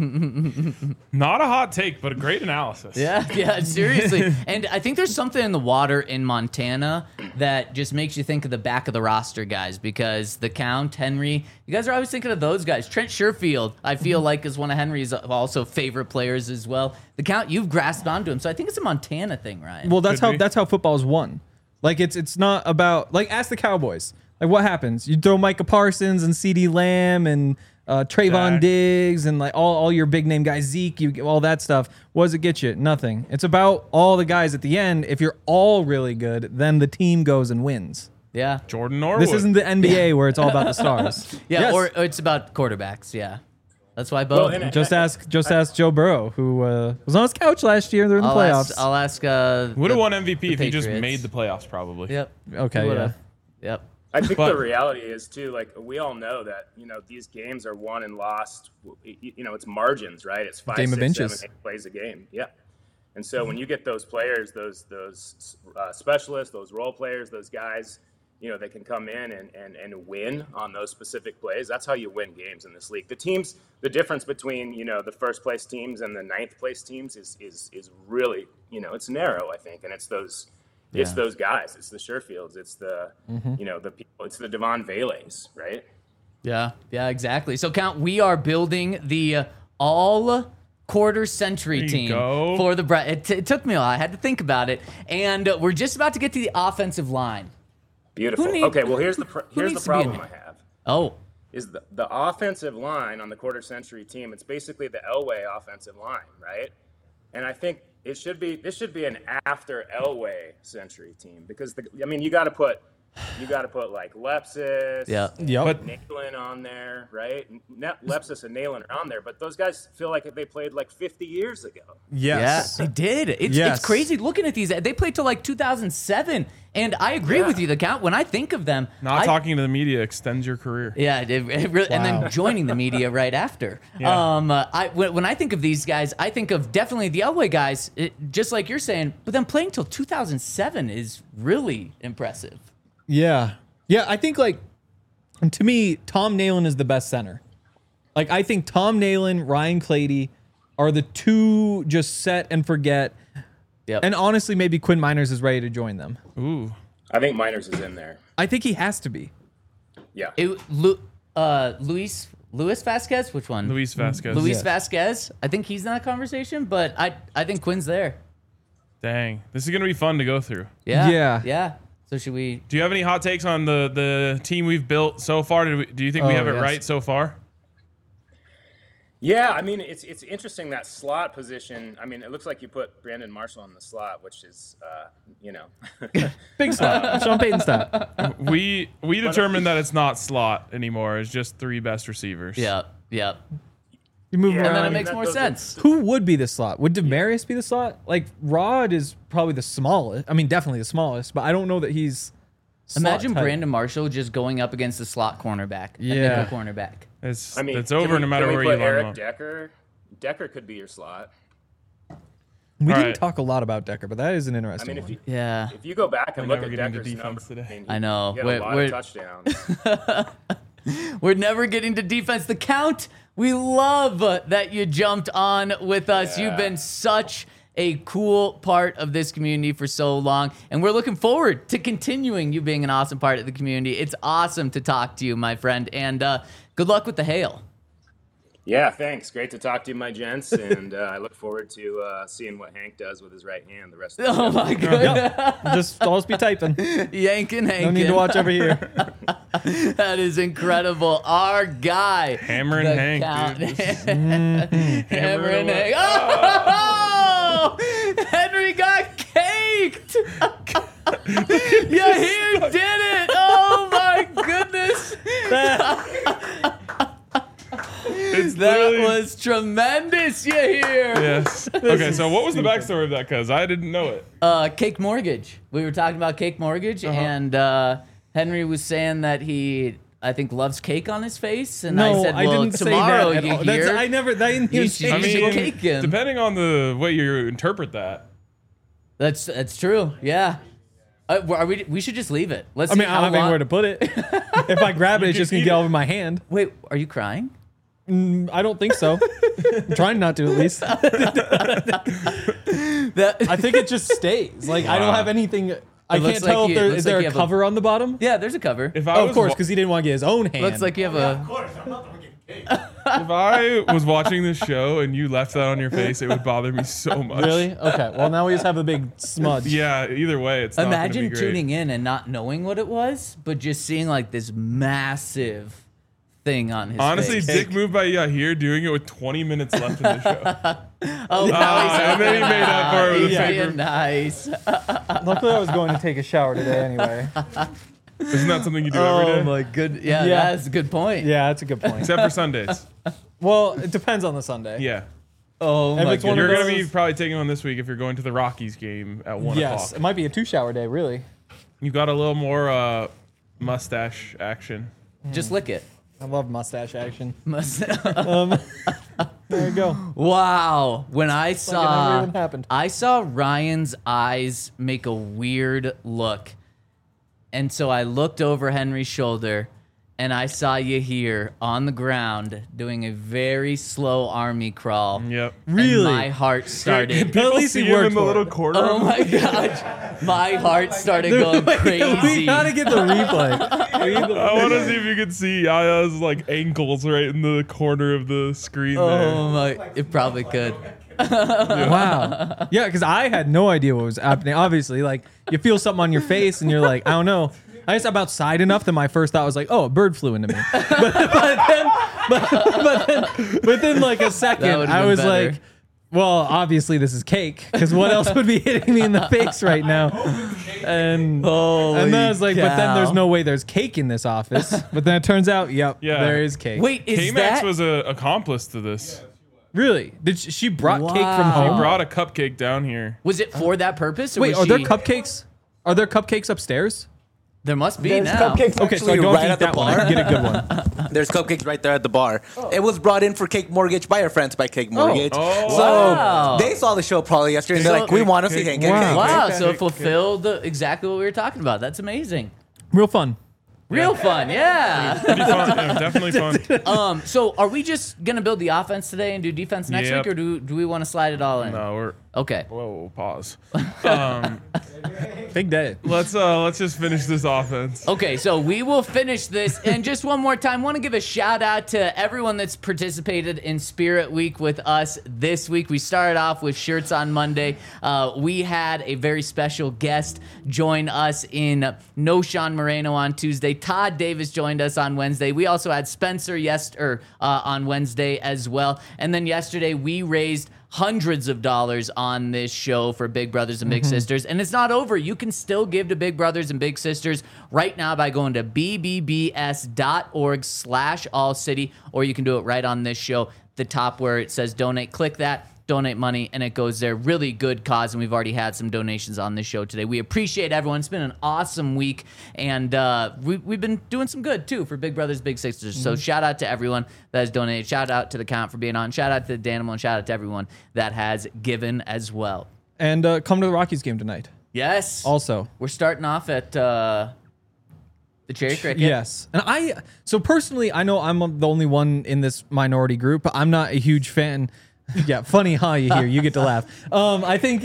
run. Not a hot take, but a great analysis. Yeah, seriously. And I think there's something in the water in Montana that just makes you think of the back of the roster guys, because the Count, Henry, you guys are always thinking of those guys. Trent Sherfield, I feel like, is one of Henry's also favorite players as well. The Count, you've grasped onto him. So I think it's a Montana thing, Ryan. Well, that's how football's won. Like it's not about, like, ask the Cowboys. Like, what happens? You throw Micah Parsons and CeeDee Lamb and Trayvon Diggs and like all your big name guys, Zeke, all that stuff. What does it get you? Nothing. It's about all the guys at the end. If you're all really good, then the team goes and wins. Yeah. Jordan Norwood. This isn't the NBA where it's all about the stars. Yeah, Yes. or it's about quarterbacks. Yeah. That's why both. Well, Just ask Joe Burrow, who was on his couch last year during the playoffs. I'll ask. Would have won MVP if he just Patriots. made the playoffs, probably. Yep. Okay, He yeah. would've. Yep. I think But- the reality is too, like, we all know that, these games are won and lost. It's margins, right? It's 5, Game of 6, inches. 7, 8 plays a game. Yeah. And so when you get those players, those specialists, those role players, those guys, they can come in and win on those specific plays. That's how you win games in this league. The difference between, the first place teams and the 9th place teams is really, it's narrow, I think. And it's those guys. It's the Sherfields. It's the, the people. It's the Devon Velays, right? Yeah, exactly. So, Count, we are building the all quarter century There you team go. for the it took me a while. I had to think about it. And we're just about to get to the offensive line. Beautiful. Who need- Okay, well, here's the needs to be problem in I it? have. Oh, Is the offensive line on the quarter century team. It's basically the Elway offensive line, right? And I think this should be an after Elway century team, because you got to put like Lepsis, Yep. But Nalen on there, right? Lepsis and Nalen are on there, but those guys feel like they played like 50 years ago. Yes. yeah, they did. It's Yes. crazy looking at these. They played till like 2007. And I agree with you, the Count. When I think of them, not talking to the media extends your career. Yeah, it really, and Wow. then joining the media right after. Yeah. When I think of these guys, I think of definitely the Elway guys, just like you're saying. But then playing till 2007 is really impressive. Yeah. Yeah, I think, like, to me, Tom Nalen is the best center. Like, I think Tom Nalen, Ryan Clady are the two just set and forget. Yep. And honestly, maybe Quinn Miners is ready to join them. Ooh. I think Miners is in there. I think he has to be. Yeah. Luis Vasquez, which one? Luis Vasquez. Luis Yes. Vasquez. I think he's in that conversation, but I think Quinn's there. Dang. This is going to be fun to go through. Yeah. Yeah. So should we? Do you have any hot takes on the team we've built so far? Do you think we Oh, have it yes. right so far? Yeah, I mean, it's interesting, that slot position. I mean, it looks like you put Brandon Marshall in the slot, which is, Big slot. Sean Payton style. We determined that it's not slot anymore. It's just 3 best receivers. Yeah. You move Yeah, And then around. it makes more those- sense. Who would be the slot? Would Demarius be the slot? Like, Rod is probably the smallest. I mean, definitely the smallest, but I don't know that he's slot Imagine type. Brandon Marshall just going up against the slot cornerback, a Yeah. nickel cornerback. It's I mean, it's over no matter can where we you put line Eric them up. Decker? Decker could be your slot. We All didn't right. talk a lot about Decker, but that is an I interesting mean, one. Yeah. if you go back and We're look never at getting to Decker's defense numbers, today. I know. He had a lot We're- of touchdowns. We're never getting to defense. The Count, we love that you jumped on with us. Yeah. You've been such a cool part of this community for so long, and we're looking forward to continuing you being an awesome part of the community. It's awesome to talk to you, my friend, and good luck with the hail. Yeah, thanks. Great to talk to you, my gents, and I look forward to seeing what Hank does with his right hand the rest of the Oh show. my goodness. Just always be typing. Yanking, No hanking. need to watch over here. That is incredible. Our guy. Hammer and the Hank, Count. dude. Hammer and Hammer Hank. and Oh! Yahir did it! Oh my goodness! It's That literally- was tremendous, Yahir! Yes. Okay, so what was the backstory of that? Because I didn't know it. Cake Mortgage. We were talking about Cake Mortgage, and Henry was saying that he, I think, loves cake on his face, and I No, said, I well, didn't say tomorrow that at all. Yahir, I never. That didn't You even should- say I you should mean, cake him. depending on the way you interpret that. That's true. Yeah. We should just leave it. Let's. I mean, see I how don't have long- anywhere to put it. If I grab it, it's just gonna eat get it. over my hand. Wait, are you crying? I don't think so. I'm trying not to, at least. I think it just stays. Like I don't Wow. have anything. I looks can't tell like if you- there looks is like there you a have a- cover on the bottom. Yeah, there's a cover. If I Oh, was of course, wa- because he didn't want to get his own hand. Looks like you have a. if I was watching this show and you left that on your face, it would bother me so much. Really? Okay. Well, now we just have a big smudge. Yeah. Either way, it's not gonna Imagine be great. tuning in and not knowing what it was, but just seeing like this massive thing on his Honestly, face. dick move by Yahir doing it with 20 minutes left in the show. Oh, now he's and then he made up for it with He's a being paper. nice. Luckily, I was going to take a shower today anyway. Isn't that something you do every day? Oh my good. Yeah, Yeah. that's a good point. Yeah, that's a good point. Except for Sundays. Well, it depends on the Sunday. Yeah. Oh If my it's one goodness. of You're going to those- be probably taking one this week if you're going to the Rockies game at 1 Yes, o'clock. it might be a 2-shower day, really. You got a little more mustache action. Just lick it. I love mustache action. Wow. There you go. When I never saw even happened. I saw Ryan's eyes make a weird look. And so I looked over Henry's shoulder and I saw Yahir on the ground doing a very slow army crawl. Yep. Really? And my heart started. At least See he him worked in the for little it. corner. Oh my gosh. My heart started going We crazy. gotta get the replay. We need the- I want to see if you can see Yaya's like ankles right in the corner of the screen Oh my, it probably could. Wow. Yeah, because I had no idea what was happening. Obviously, like you feel something on your face, and you're like, I don't know. I just up outside enough that my first thought was like, oh, a bird flew into me. But then like a That second, would've I been was better. like, well, obviously this is cake, because what else would be hitting me in the face right now? And then I was like, but then there's no way there's cake in this office. But then it turns out, yep, Yeah. there is cake. Wait, is K-Max that was an accomplice to this. Really? Did she brought cake from Wow. home? He brought a cupcake down here. was it for that purpose? Or Wait, was are there she- cupcakes? Are there cupcakes upstairs? There must be There's now. cupcakes Okay, so I actually don't right eat at the that one. I bar. can get a good one. There's cupcakes right there at the bar. It was brought in for Cake Mortgage by our friends by Cake Mortgage. Oh. So Wow. they saw the show probably yesterday and they're So- like, we want to see Cake. Wow. Wow, Cake, so it cake, fulfilled exactly what we were talking about. That's amazing. Real fun. Real fun, yeah. Pretty fun. Yeah, definitely fun. So are we just gonna build the offense today and do defense next Yep. week, or do we want to slide it all in? No, we're Okay. whoa. Pause. Big day. Let's just finish this offense. Okay, so we will finish this. And just one more time, want to give a shout out to everyone that's participated in Spirit Week with us this week. We started off with Shirts on Monday. We had a very special guest join us in No Sean Moreno on Tuesday. Todd Davis joined us on Wednesday. We also had Spencer on Wednesday as well. And then yesterday we raised hundreds of dollars on this show for Big Brothers and Big Sisters. And it's not over. You can still give to Big Brothers and Big Sisters right now by going to bbbs.org/allcity, or you can do it right on this show, the top where it says donate. Click that, donate money, and it goes there. Really good cause, and we've already had some donations on this show today. We appreciate everyone. It's been an awesome week, and we've been doing some good, too, for Big Brothers, Big Sisters. So shout out to everyone that has donated. Shout out to the Count for being on. Shout out to Danimal, and shout out to everyone that has given as well. And come to the Rockies game tonight. Yes. Also. We're starting off at the Cherry Cricket. Yes. And so personally, I know I'm the only one in this minority group. I'm not a huge fan. Yeah, funny, huh? You get to laugh. I think,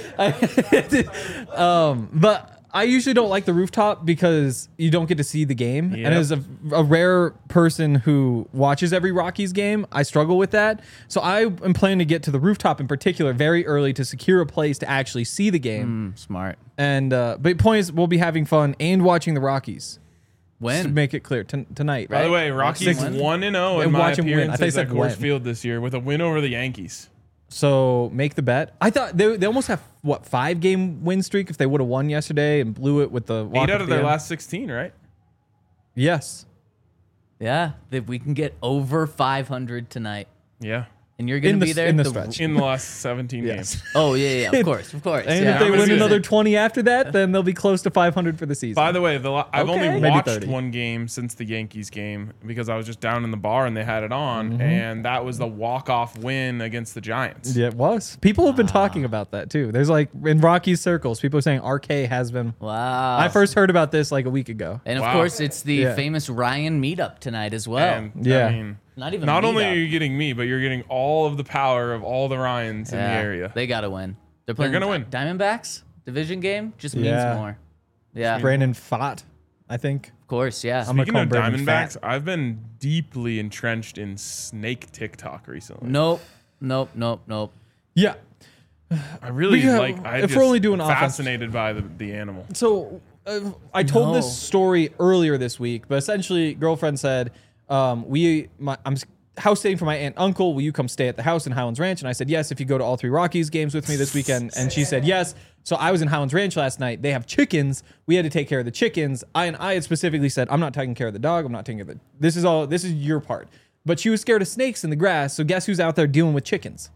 but I usually don't like the rooftop because you don't get to see the game. Yep. And as a rare person who watches every Rockies game, I struggle with that. So I am planning to get to the rooftop in particular very early to secure a place to actually see the game. Smart. And but the point is, we'll be having fun and watching the Rockies. To When? make it clear tonight. By the way, Rockies Win? 1-0 Yeah, in my watch 'em win. I thought you appearances said at Coors win. Field this year with a win over the Yankees. So make the bet. I thought they almost have, 5-game win streak if they would have won yesterday and blew it with the walk 8 out at of the their end. last 16, right? Yes. Yeah, that we can get over 500 tonight. Yeah. And you're going to be there. in the stretch. In the last 17 Yes. games. Oh, yeah, of course. And Yeah. if they I'm win gonna another say- 20 after that, then they'll be close to 500 for the season. By the way, I've Okay. only Maybe watched 30. one game since the Yankees game because I was just down in the bar and they had it on, and that was the walk-off win against the Giants. Yeah, it was. People have been talking about that too. There's like in Rockies circles, people are saying RK has been. Wow. I first heard about this like a week ago. And of Wow. course, it's the Yeah. famous Ryan meetup tonight as well. And Yeah. I mean, Not even not only meetup. are you getting me, but you're getting all of the power of all the Ryans in the area. They got to win. They're playing gonna win. Diamondbacks division game. Just Yeah. means more. Yeah, Brandon Fott, I think. of course. Yeah. I'm gonna Speaking call of Brandon Diamondbacks, Fat. I've been deeply entrenched in snake TikTok recently. Nope. Yeah. I really Yeah, like. if we're only doing offense- fascinated by the animal. So I told No. this story earlier this week, but essentially, girlfriend said, I'm house staying for my aunt and uncle. Will you come stay at the house in Highlands Ranch? And I said yes if you go to all 3 Rockies games with me this weekend. And she said yes. So I was in Highlands Ranch last night. They have chickens. We had to take care of the chickens. I had specifically said, I'm not taking care of the dog. I'm not taking care of this is your part. But she was scared of snakes in the grass. So guess who's out there dealing with chickens?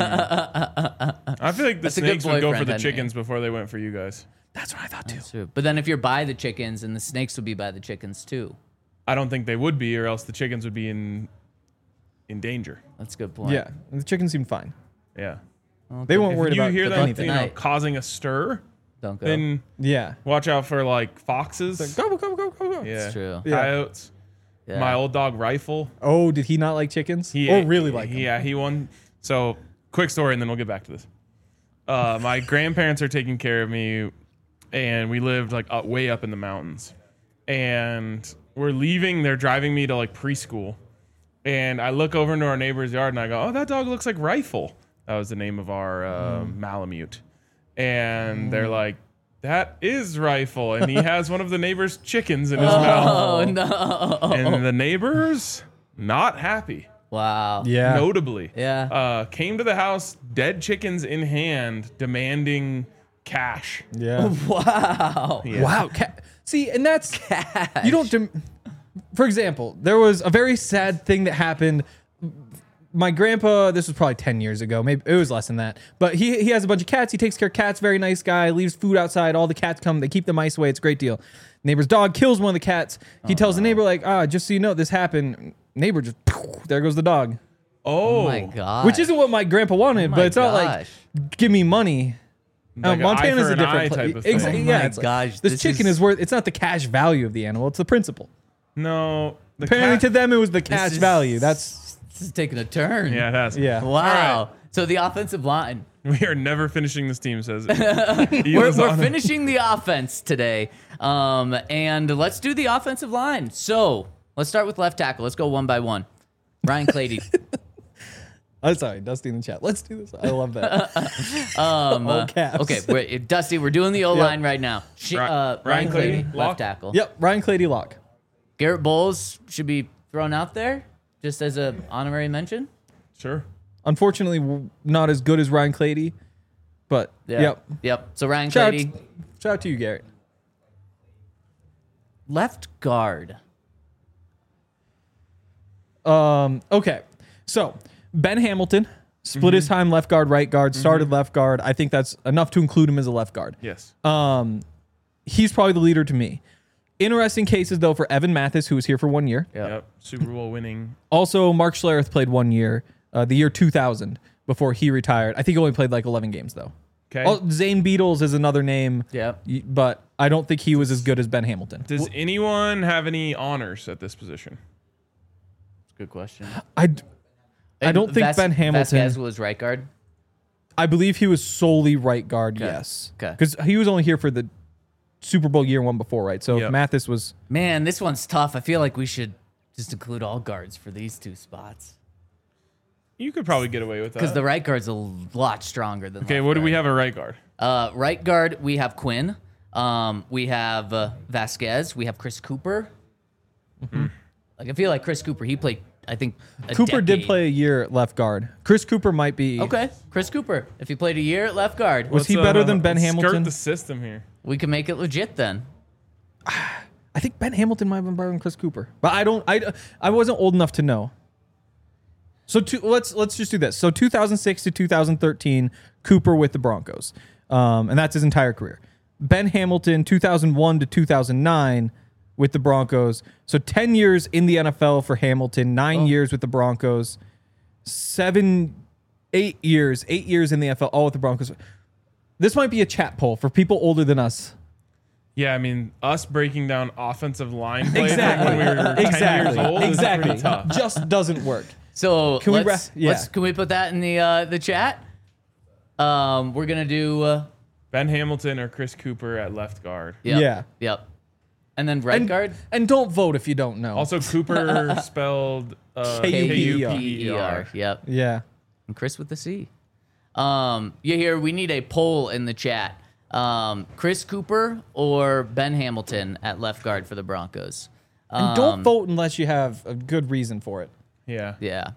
I feel like the That's a good snakes would go for boyfriend, the Henry. chickens before they went for you guys. That's what I thought too. True. But then if you're by the chickens, and the snakes would be by the chickens too. I don't think they would be, or else the chickens would be in danger. That's a good point. Yeah. The chickens seemed fine. Yeah. They weren't If worried you about hear that, anything. tonight. causing a stir, Don't go. then Yeah. watch out for like foxes. Go, go, go, go, go. Yeah. It's true. Yeah. Coyotes. Yeah. My old dog Rifle. Oh, did he not like chickens? Or really like them? Yeah, he won. So, quick story, and then we'll get back to this. My grandparents are taking care of me, and we lived like way up in the mountains. And we're leaving. They're driving me to like preschool, and I look over into our neighbor's yard, and I go, "Oh, that dog looks like Rifle." That was the name of our Malamute. And they're like, "That is Rifle," and he has one of the neighbor's chickens in his mouth. Oh no. And the neighbors not happy. Wow. Yeah. Notably, Yeah. came to the house, dead chickens in hand, demanding cash. Yeah. Wow. Wow. See, and that's you don't. For example, there was a very sad thing that happened. My grandpa, this was probably 10 years ago. Maybe it was less than that. But he has a bunch of cats. He takes care of cats. Very nice guy. Leaves food outside. All the cats come. They keep the mice away. It's a great deal. Neighbor's dog kills one of the cats. He tells the neighbor like, just so you know, this happened. Neighbor just there goes the dog. Oh Oh, my god. Which isn't what my grandpa wanted, my but it's not like gosh. give me money. Like an eye Montana's for a an different eye place. type of thing. Oh Yeah, my it's like, gosh, this this chicken is- is worth. It's not the cash value of the animal. It's the principle. no. The Apparently, cat- to them, it was the cash is- value. That's This is taking a turn. Yeah, it has. yeah. Wow. All So the offensive line. We are never finishing this team, says it. We're finishing the offense today. And let's do the offensive line. So let's start with left tackle. Let's go one by one. Ryan Clady. I'm sorry, Dusty in the chat. Let's do this. I love that. All caps. Okay, Dusty, we're doing the O line right now. Ryan Ryan Clady, Clady, lock. left tackle. Yep, Ryan Clady lock. Garrett Bowles should be thrown out there just as a honorary mention. Sure. Unfortunately, not as good as Ryan Clady, but yep. Yep. So Ryan Shout Clady, out to you, Garrett. left guard. Okay, so Ben Hamilton split his time left guard, right guard, started left guard. I think that's enough to include him as a left guard. Yes. He's probably the leader to me. Interesting cases though for Evan Mathis, who was here for 1 year. Yep. Super Bowl winning. Also, Mark Schlereth played 1 year, the year 2000, before he retired. I think he only played like 11 games though. Okay. Oh, Zane Beatles is another name. Yep. But I don't think he was as good as Ben Hamilton. Does anyone have any honors at this position? Good question. I don't think Ben Hamilton. Vasquez was right guard. I believe he was solely right guard. Yes. Okay. Because he was only here for the Super Bowl year one before, right? So Yep. if Mathis was. Man, this one's tough. I feel like we should just include all guards for these two spots You could probably get away with that. because the right guard's a lot stronger than. Okay, left what do we guard. have at right guard? Right guard, we have Quinn. We have Vasquez. We have Chris Cooper. Like I feel like Chris Cooper, he played I think a Cooper did decade. play a year at left guard. Chris Cooper might be. Okay, Chris Cooper. If he played a year at left guard, Was he better than Ben let's Hamilton? Skirt the system here. we can make it legit then. I think Ben Hamilton might have been better than Chris Cooper, but I wasn't old enough to know. So let's just do this. So 2006 to 2013, Cooper with the Broncos, and that's his entire career. Ben Hamilton 2001 to 2009 with the Broncos. So 10 years in the NFL for Hamilton, 9 years with the Broncos, 8 years in the NFL, all with the Broncos. This might be a chat poll for people older than us. Yeah, I mean, us breaking down offensive line play from when we were 10 years old is pretty tough. Just doesn't work. So Can we can we put that in the chat? We're gonna do Ben Hamilton or Chris Cooper at left guard. Yep. And then right guard. And don't vote if you don't know. Also, Cooper spelled K-U-P-E-R. K-U-P-E-R. Yep. Yeah. And Chris with the C. You hear? We need a poll in the chat. Chris Cooper or Ben Hamilton at left guard for the Broncos. And don't vote unless you have a good reason for it. Yeah. Yeah.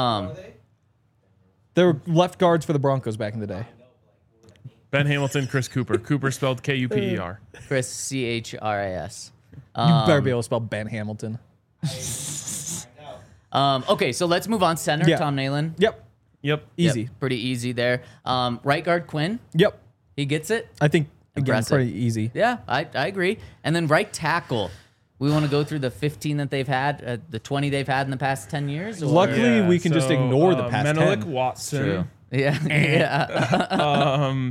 There were left guards for the Broncos back in the day. Ben Hamilton, Chris Cooper. Cooper spelled K-U-P-E-R. Chris CHRIS. You better be able to spell Ben Hamilton. Okay, so let's move on. Center, Yeah. Tom Nalen. Yep. Yep. Easy. Yep, pretty easy there. Right guard, Quinn. Yep. He gets it. I think, again, Impressive. pretty easy. Yeah, I agree. And then right tackle. We want to go through the 15 that they've had, the 20 they've had in the past 10 years? Or? Luckily, we can just ignore the past Menelik 10. Watson. True. Yeah. yeah.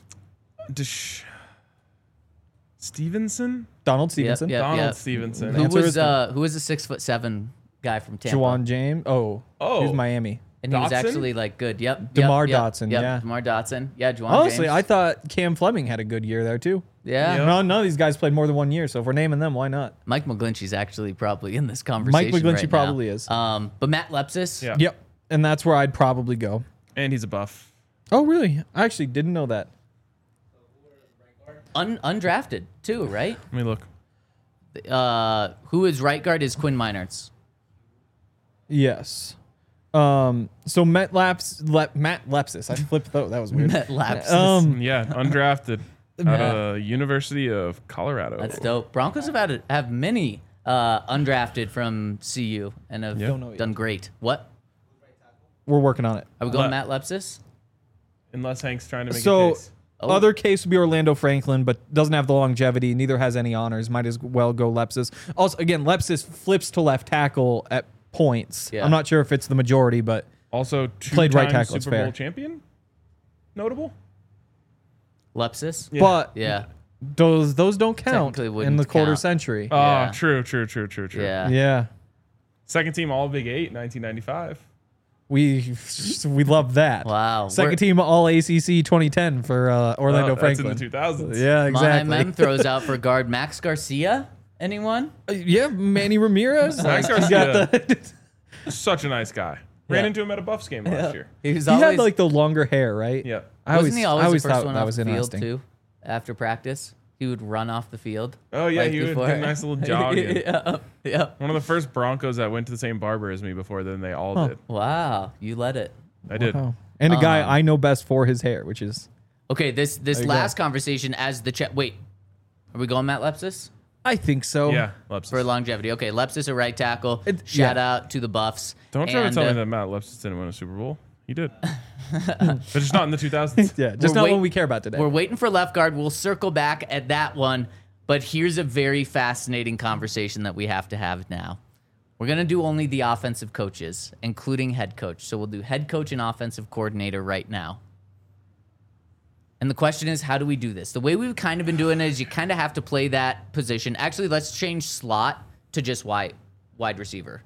Stevenson? Donald Stevenson. Yep. Donald Stevenson. Who Answer was is no. who was a 6'7" guy from Tampa? Juwan James. Oh, he was Miami. And he was Dotson? actually like good. Yep. DeMar yep, Dotson, Yep. yeah. DeMar Dotson. Yeah. Juwan Honestly, James. I thought Cam Fleming had a good year there, too. Yeah. Yep. None of these guys played more than 1 year, so if we're naming them, why not? Mike McGlinchey's actually probably in this conversation. Mike McGlinchey right probably now. is. But Matt Lepsis. Yeah. Yep. And that's where I'd probably go. And he's a buff. Oh, really? I actually didn't know that. Undrafted too, right? Let me look. Who is right guard is Quinn Meinerz. Yes. So Matt Lepsis. I flipped that. That was weird. Matt Lapsis. Yeah, undrafted out of University of Colorado. That's dope. Broncos have many undrafted from CU and have Don't know yet. done great. What? We're working on it. Are we going Matt Lepsis? Unless Hank's trying to make a So case. other case would be Orlando Franklin, but doesn't have the longevity. Neither has any honors. Might as well go Lepsis. Also, again, Lepsis flips to left tackle at points. Yeah. I'm not sure if it's the majority, but Also, Played right two-time tackle, it's Super Bowl fair. champion? Notable? Lepsis? Yeah. but Yeah. those don't count Technically in wouldn't the quarter count. century. Oh, Yeah. true. Yeah. Yeah. Second team All Big 8, 1995. We love that. Wow. Second team All ACC 2010 for Orlando Oh, Franklin. That's in the 2000s. Yeah, exactly. Mem throws out for guard Max Garcia. Anyone? Yeah, Manny Ramirez. Max You Garcia. got the- Such a nice guy. Ran into him at a Buffs game last year. He was he always had like the longer hair, right? Yep. wasn't he always the first thought one that off was the field interesting. too? After practice, he would run off the field. Oh, yeah, like he would do before. a nice little jogging. yeah. One of the first Broncos that went to the same barber as me before then they all did. Wow, you led it. I did. Oh. And a guy I know best for his hair, which is Okay, this you last conversation as the chat. Wait, are we going Matt Lepsis I think so. Yeah, Lepsis. for longevity? Okay, Lepsis a right tackle. It- Shout yeah. out to the Buffs. Don't try to And, tell me that Matt Lepsis didn't win a Super Bowl. He did. But just not in the 2000s. Yeah, just We're not wait- what we care about today. We're waiting for left guard. We'll circle back at that one. But here's a very fascinating conversation that we have to have now. We're going to do only the offensive coaches, including head coach. So we'll do head coach and offensive coordinator right now. And the question is, how do we do this? The way we've kind of been doing it is you kind of have to play that position. Actually, let's change slot to just wide receiver.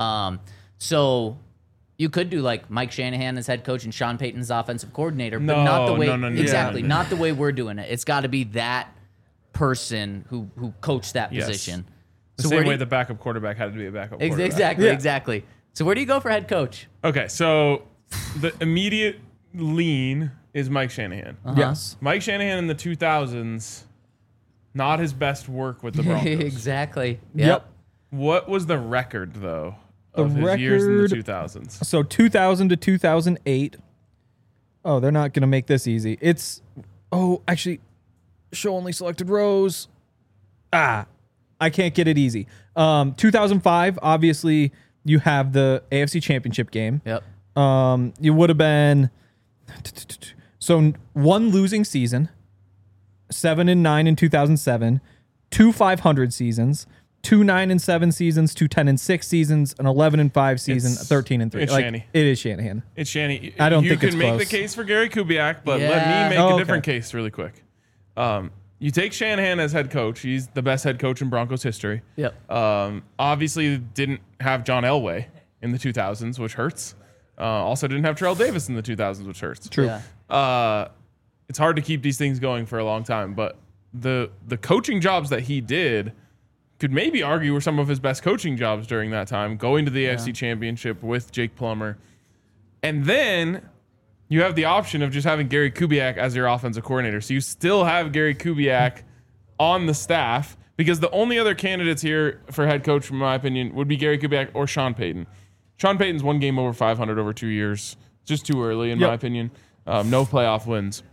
So you could do like Mike Shanahan as head coach and Sean Payton's offensive coordinator, but not the way No. exactly, Yeah. not the way we're doing it. It's got to be that person who coached that Yes. position. The So where same do way you- the backup quarterback had to be a backup quarterback. Exactly, Yeah. exactly. So where do you go for head coach? Okay, so the immediate lean is Mike Shanahan. Yes. Mike Shanahan in the 2000s, not his best work with the Broncos. Exactly. Yep. What was the record, though, of his years in the record- 2000s. So 2000 to 2008. Oh, they're not going to make this easy. Actually, show only selected rows. I can't get it easy. 2005, obviously, you have the AFC Championship game. Yep. You would have been so one losing season, 7-9 in 2007, 2 500 seasons, 2 9-7 seasons, 2 10-6 seasons, an 11-5 season, It's- 13-3. it's Like, Shanny. it is Shanahan. It's Shanny. I don't you think can it's make close. the case for Gary Kubiak, but Yeah. let me make Oh, a okay. different case really quick. You take Shanahan as head coach. He's the best head coach in Broncos history. Yep. Obviously didn't have John Elway in the 2000s, which hurts. Also didn't have Terrell Davis in the 2000s, which hurts. True. Yeah. It's hard to keep these things going for a long time, but the coaching jobs that he did could maybe argue were some of his best coaching jobs during that time, going to the AFC Championship with Jake Plummer. And then you have the option of just having Gary Kubiak as your offensive coordinator. So you still have Gary Kubiak on the staff, because the only other candidates here for head coach, in my opinion, would be Gary Kubiak or Sean Payton. Sean Payton's one game over 500 over 2 years. Just too early, in my opinion. No playoff wins.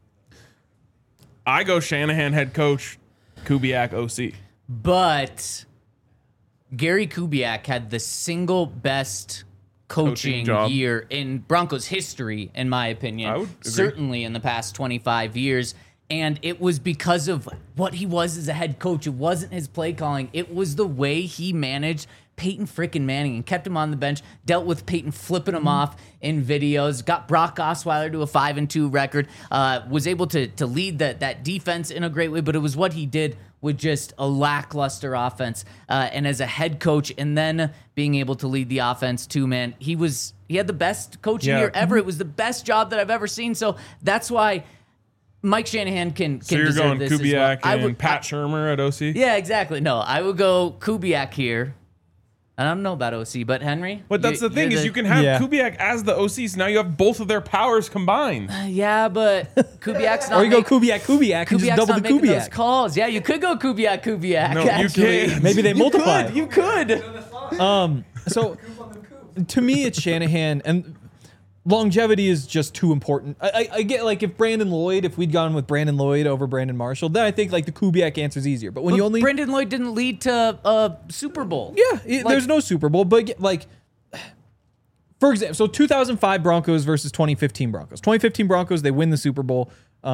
I go Shanahan head coach, Kubiak OC. But Gary Kubiak had the single best coaching job. year in Broncos history, in my opinion. I would agree. Certainly in the past 25 years. And it was because of what he was as a head coach. It wasn't his play calling. It was the way he managed Peyton frickin' Manning and kept him on the bench, dealt with Peyton flipping him off in videos, got Brock Osweiler to a 5-2 record, was able to lead that defense in a great way, but it was what he did with just a lackluster offense. And as a head coach, and then being able to lead the offense too, man, he had the best coaching Yeah. year ever. It was the best job that I've ever seen. So that's why Mike Shanahan can So you're deserve going this as well. Kubiak I and would- Pat Shurmur at OC? Yeah, exactly. No, I would go Kubiak here. I don't know about OC, but Henry. But that's the thing, you're is you can have Yeah. Kubiak as the OC, so now you have both of their powers combined. Yeah, but Kubiak's not. Or you go Kubiak and just Kubiak's double not the making those Kubiak. calls. Yeah, you could go Kubiak. No, you actually. can't. Maybe they multiply. You could. So to me, it's Shanahan, and longevity is just too important. I get, like, if we'd gone with Brandon Lloyd over Brandon Marshall, then I think like the Kubiak answer's easier. But when you only Brendan Lloyd didn't lead to a Super Bowl. there's no Super Bowl, but like, for example, so 2005 Broncos versus 2015 Broncos. 2015 Broncos, they win the Super Bowl.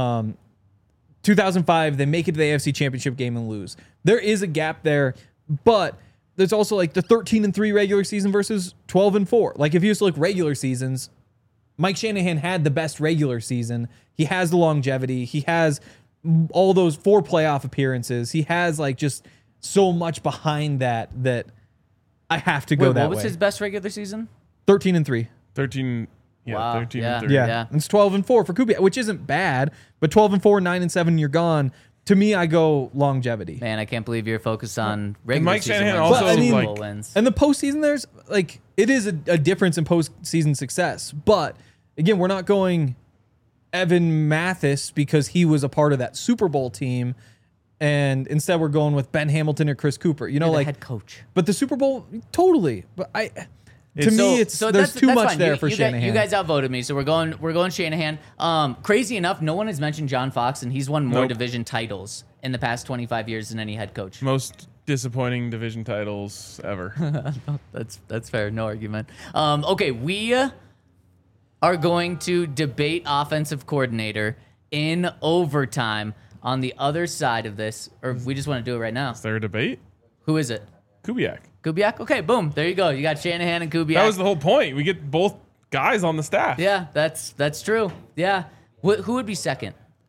2005, they make it to the AFC Championship game and lose. There is a gap there, but there's also like the 13-3 regular season versus 12-4. Like, if you just look regular seasons, Mike Shanahan had the best regular season. He has the longevity. He has all those 4 playoff appearances. He has like just so much behind that I have to go Wait, that what was way. his best regular season? 13-3. 13, yeah, Wow, 13 yeah. and 30. Yeah. Yeah. It's 12-4 for Kubiak, which isn't bad, but 12-4, 9-7, you're gone. To me, I go longevity. Man, I can't believe you're focused on regular Mike season Shanahan wins, also, not Super like- Bowl wins. And the postseason, there's like, it is a difference in postseason success. But again, we're not going Evan Mathis because he was a part of that Super Bowl team. And instead, we're going with Ben Hamilton or Chris Cooper. You know, You're the like, head coach. but the Super Bowl, totally. But to me, So there's that's too much fine. there for you Shanahan. You guys outvoted me, so we're going Shanahan. Crazy enough, no one has mentioned John Fox, and he's won more Nope. division titles in the past 25 years than any head coach. Most disappointing division titles ever. That's fair. No argument. Okay, we are going to debate offensive coordinator in overtime on the other side of this, or we just want to do it right now. Is there a debate? Who is it? Kubiak. Kubiak? Okay, boom. There you go. You got Shanahan and Kubiak. That was the whole point. We get both guys on the staff. Yeah, that's true. Yeah. Who would be second?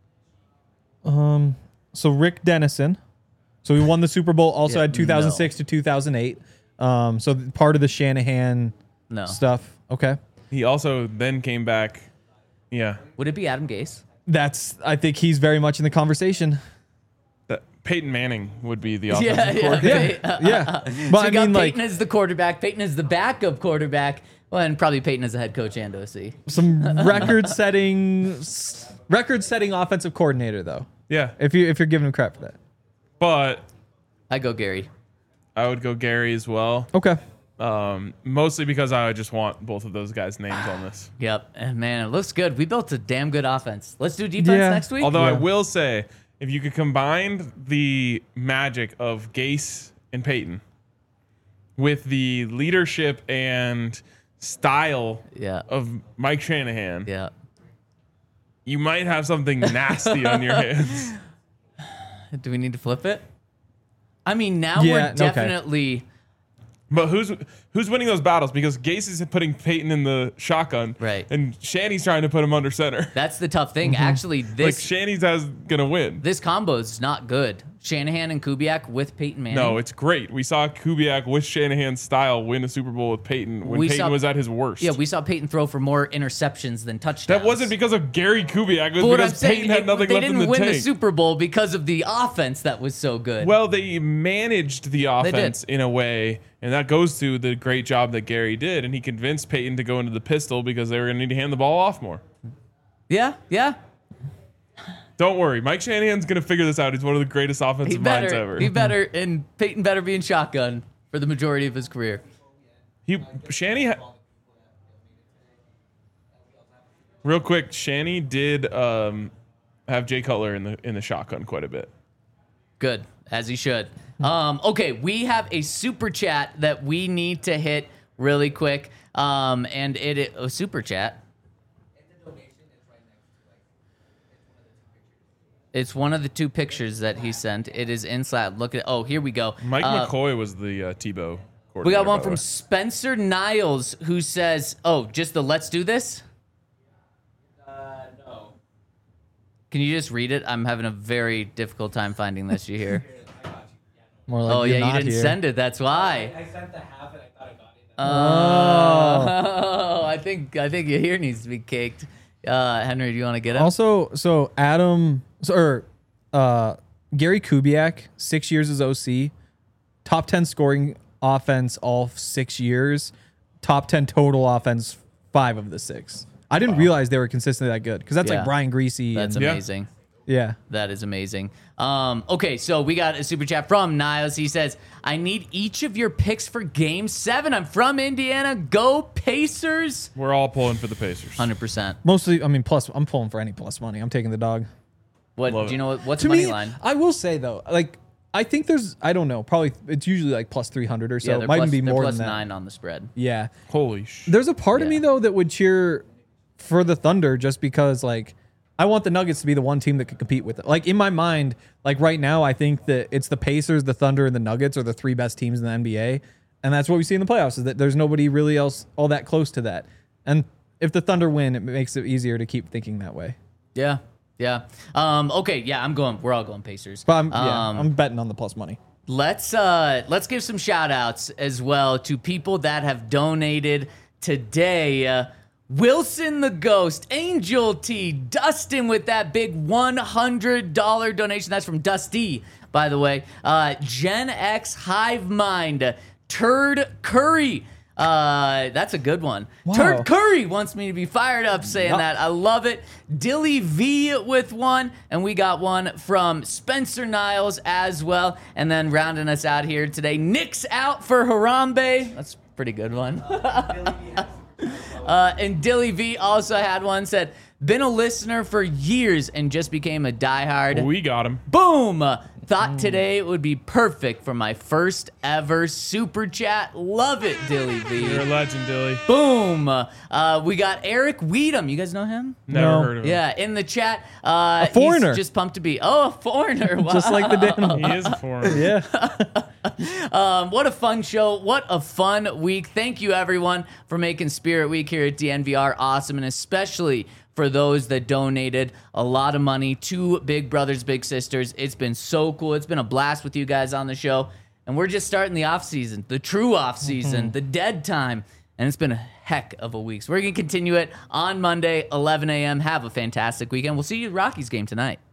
So Rick Dennison. So he won the Super Bowl, also Yeah, had 2006 to 2008. So part of the Shanahan No. stuff. Okay. He also then came back. Yeah. Would it be Adam Gase? I think he's very much in the conversation. Peyton Manning would be the offensive Yeah, coordinator. yeah. Yeah. But So you I got mean, like, Peyton as the quarterback, Peyton as the backup quarterback, well, and probably Peyton as the head coach and OC. some record-setting offensive coordinator, though. Yeah. If you're giving him crap for that. But I go Gary. I would go Gary as well. Okay. Mostly because I just want both of those guys' names on this. Yep. And man, it looks good. We built a damn good offense. Let's do defense next week. Although I will say, if you could combine the magic of Gase and Peyton with the leadership and style of Mike Shanahan, you might have something nasty on your hands. Do we need to flip it? I mean, now we're definitely... But who's winning those battles? Because Gase is putting Peyton in the shotgun, right? And Shanny's trying to put him under center. That's the tough thing. Actually, this Shanny's gonna win. This combo is not good. Shanahan and Kubiak with Peyton Manning. No, it's great. We saw Kubiak with Shanahan's style win a Super Bowl with Peyton when Peyton was at his worst. Yeah, we saw Peyton throw for more interceptions than touchdowns. That wasn't because of Gary Kubiak. It was because Peyton had nothing left in the tank. They didn't win the Super Bowl because of the offense that was so good. Well, they managed the offense in a way, and that goes to the great job that Gary did, and he convinced Peyton to go into the pistol because they were going to need to hand the ball off more. Yeah. Don't worry. Mike Shanahan's going to figure this out. He's one of the greatest offensive minds ever. He better, and Peyton better be in shotgun for the majority of his career. Real quick, Shanny did have Jay Cutler in the shotgun quite a bit. Good, as he should. Okay, we have a super chat that we need to hit really quick. And a super chat. It's one of the two pictures that he sent. It is in Slack. Look at. Oh, here we go. Mike McCoy was the Tebow. We got one from Spencer Niles who says, "Oh, just the let's do this." No. Can you just read it? I'm having a very difficult time finding this. You hear? More like you didn't send it. That's why. I sent the half and I thought I got it. Oh, I think your hair needs to be caked. Henry, do you want to get it? Also, Gary Kubiak, 6 years as OC, top 10 scoring offense all 6 years, top 10 total offense 5 of the 6. I didn't realize they were consistently that good because that's like Brian Greasy. That's amazing. Yeah. That is amazing. Okay, so we got a super chat from Niles. He says, I need each of your picks for Game 7. I'm from Indiana. Go Pacers. We're all pulling for the Pacers. 100%. Mostly, I mean, plus, I'm pulling for any plus money. I'm taking the dog. What Love do you know? What's To money me, line? I will say, though, like, I think I don't know, probably it's usually like plus 300 or so. Yeah, It they're might plus, even be they're more plus than that. 9 on the spread. Yeah. Holy There's a part of me, Yeah. though, that would cheer for the Thunder just because, like, I want the Nuggets to be the one team that could compete with it. Like, in my mind, like right now, I think that it's the Pacers, the Thunder, and the Nuggets are the 3 best teams in the NBA. And that's what we see in the playoffs, is that there's nobody really else all that close to that. And if the Thunder win, it makes it easier to keep thinking that way. Yeah. Okay, yeah, we're all going Pacers. But I'm betting on the plus money. Let's give some shout outs as well to people that have donated today. Wilson the Ghost, Angel T, Dustin with that big $100 donation. That's from Dusty, by the way. Gen X Hive Mind, Turd Curry. That's a good one. Wow. Turd Curry wants me to be fired up saying that. I love it. Dilly V with one, and we got one from Spencer Niles as well. And then rounding us out here today, Nick's out for Harambe. That's a pretty good one. And Dilly V also had one, said, been a listener for years and just became a diehard. We got him. Boom! Thought today would be perfect for my first ever super chat. Love it, Dilly V. You're a legend, Dilly. Boom! We got Eric Weedham. You guys know him? Never No. heard of him. Yeah, in the chat. A foreigner. He's just pumped to be. Oh, a foreigner. Wow. Just like the Danimal. He is a foreigner. Yeah. What a fun show. What a fun week. Thank you, everyone, for making Spirit Week here at DNVR awesome, and especially for those that donated a lot of money to Big Brothers Big Sisters. It's been so cool. It's been a blast with you guys on the show. And we're just starting the off season, the true off season, the dead time. And it's been a heck of a week. So we're going to continue it on Monday, 11 a.m. Have a fantastic weekend. We'll see you at Rockies game tonight.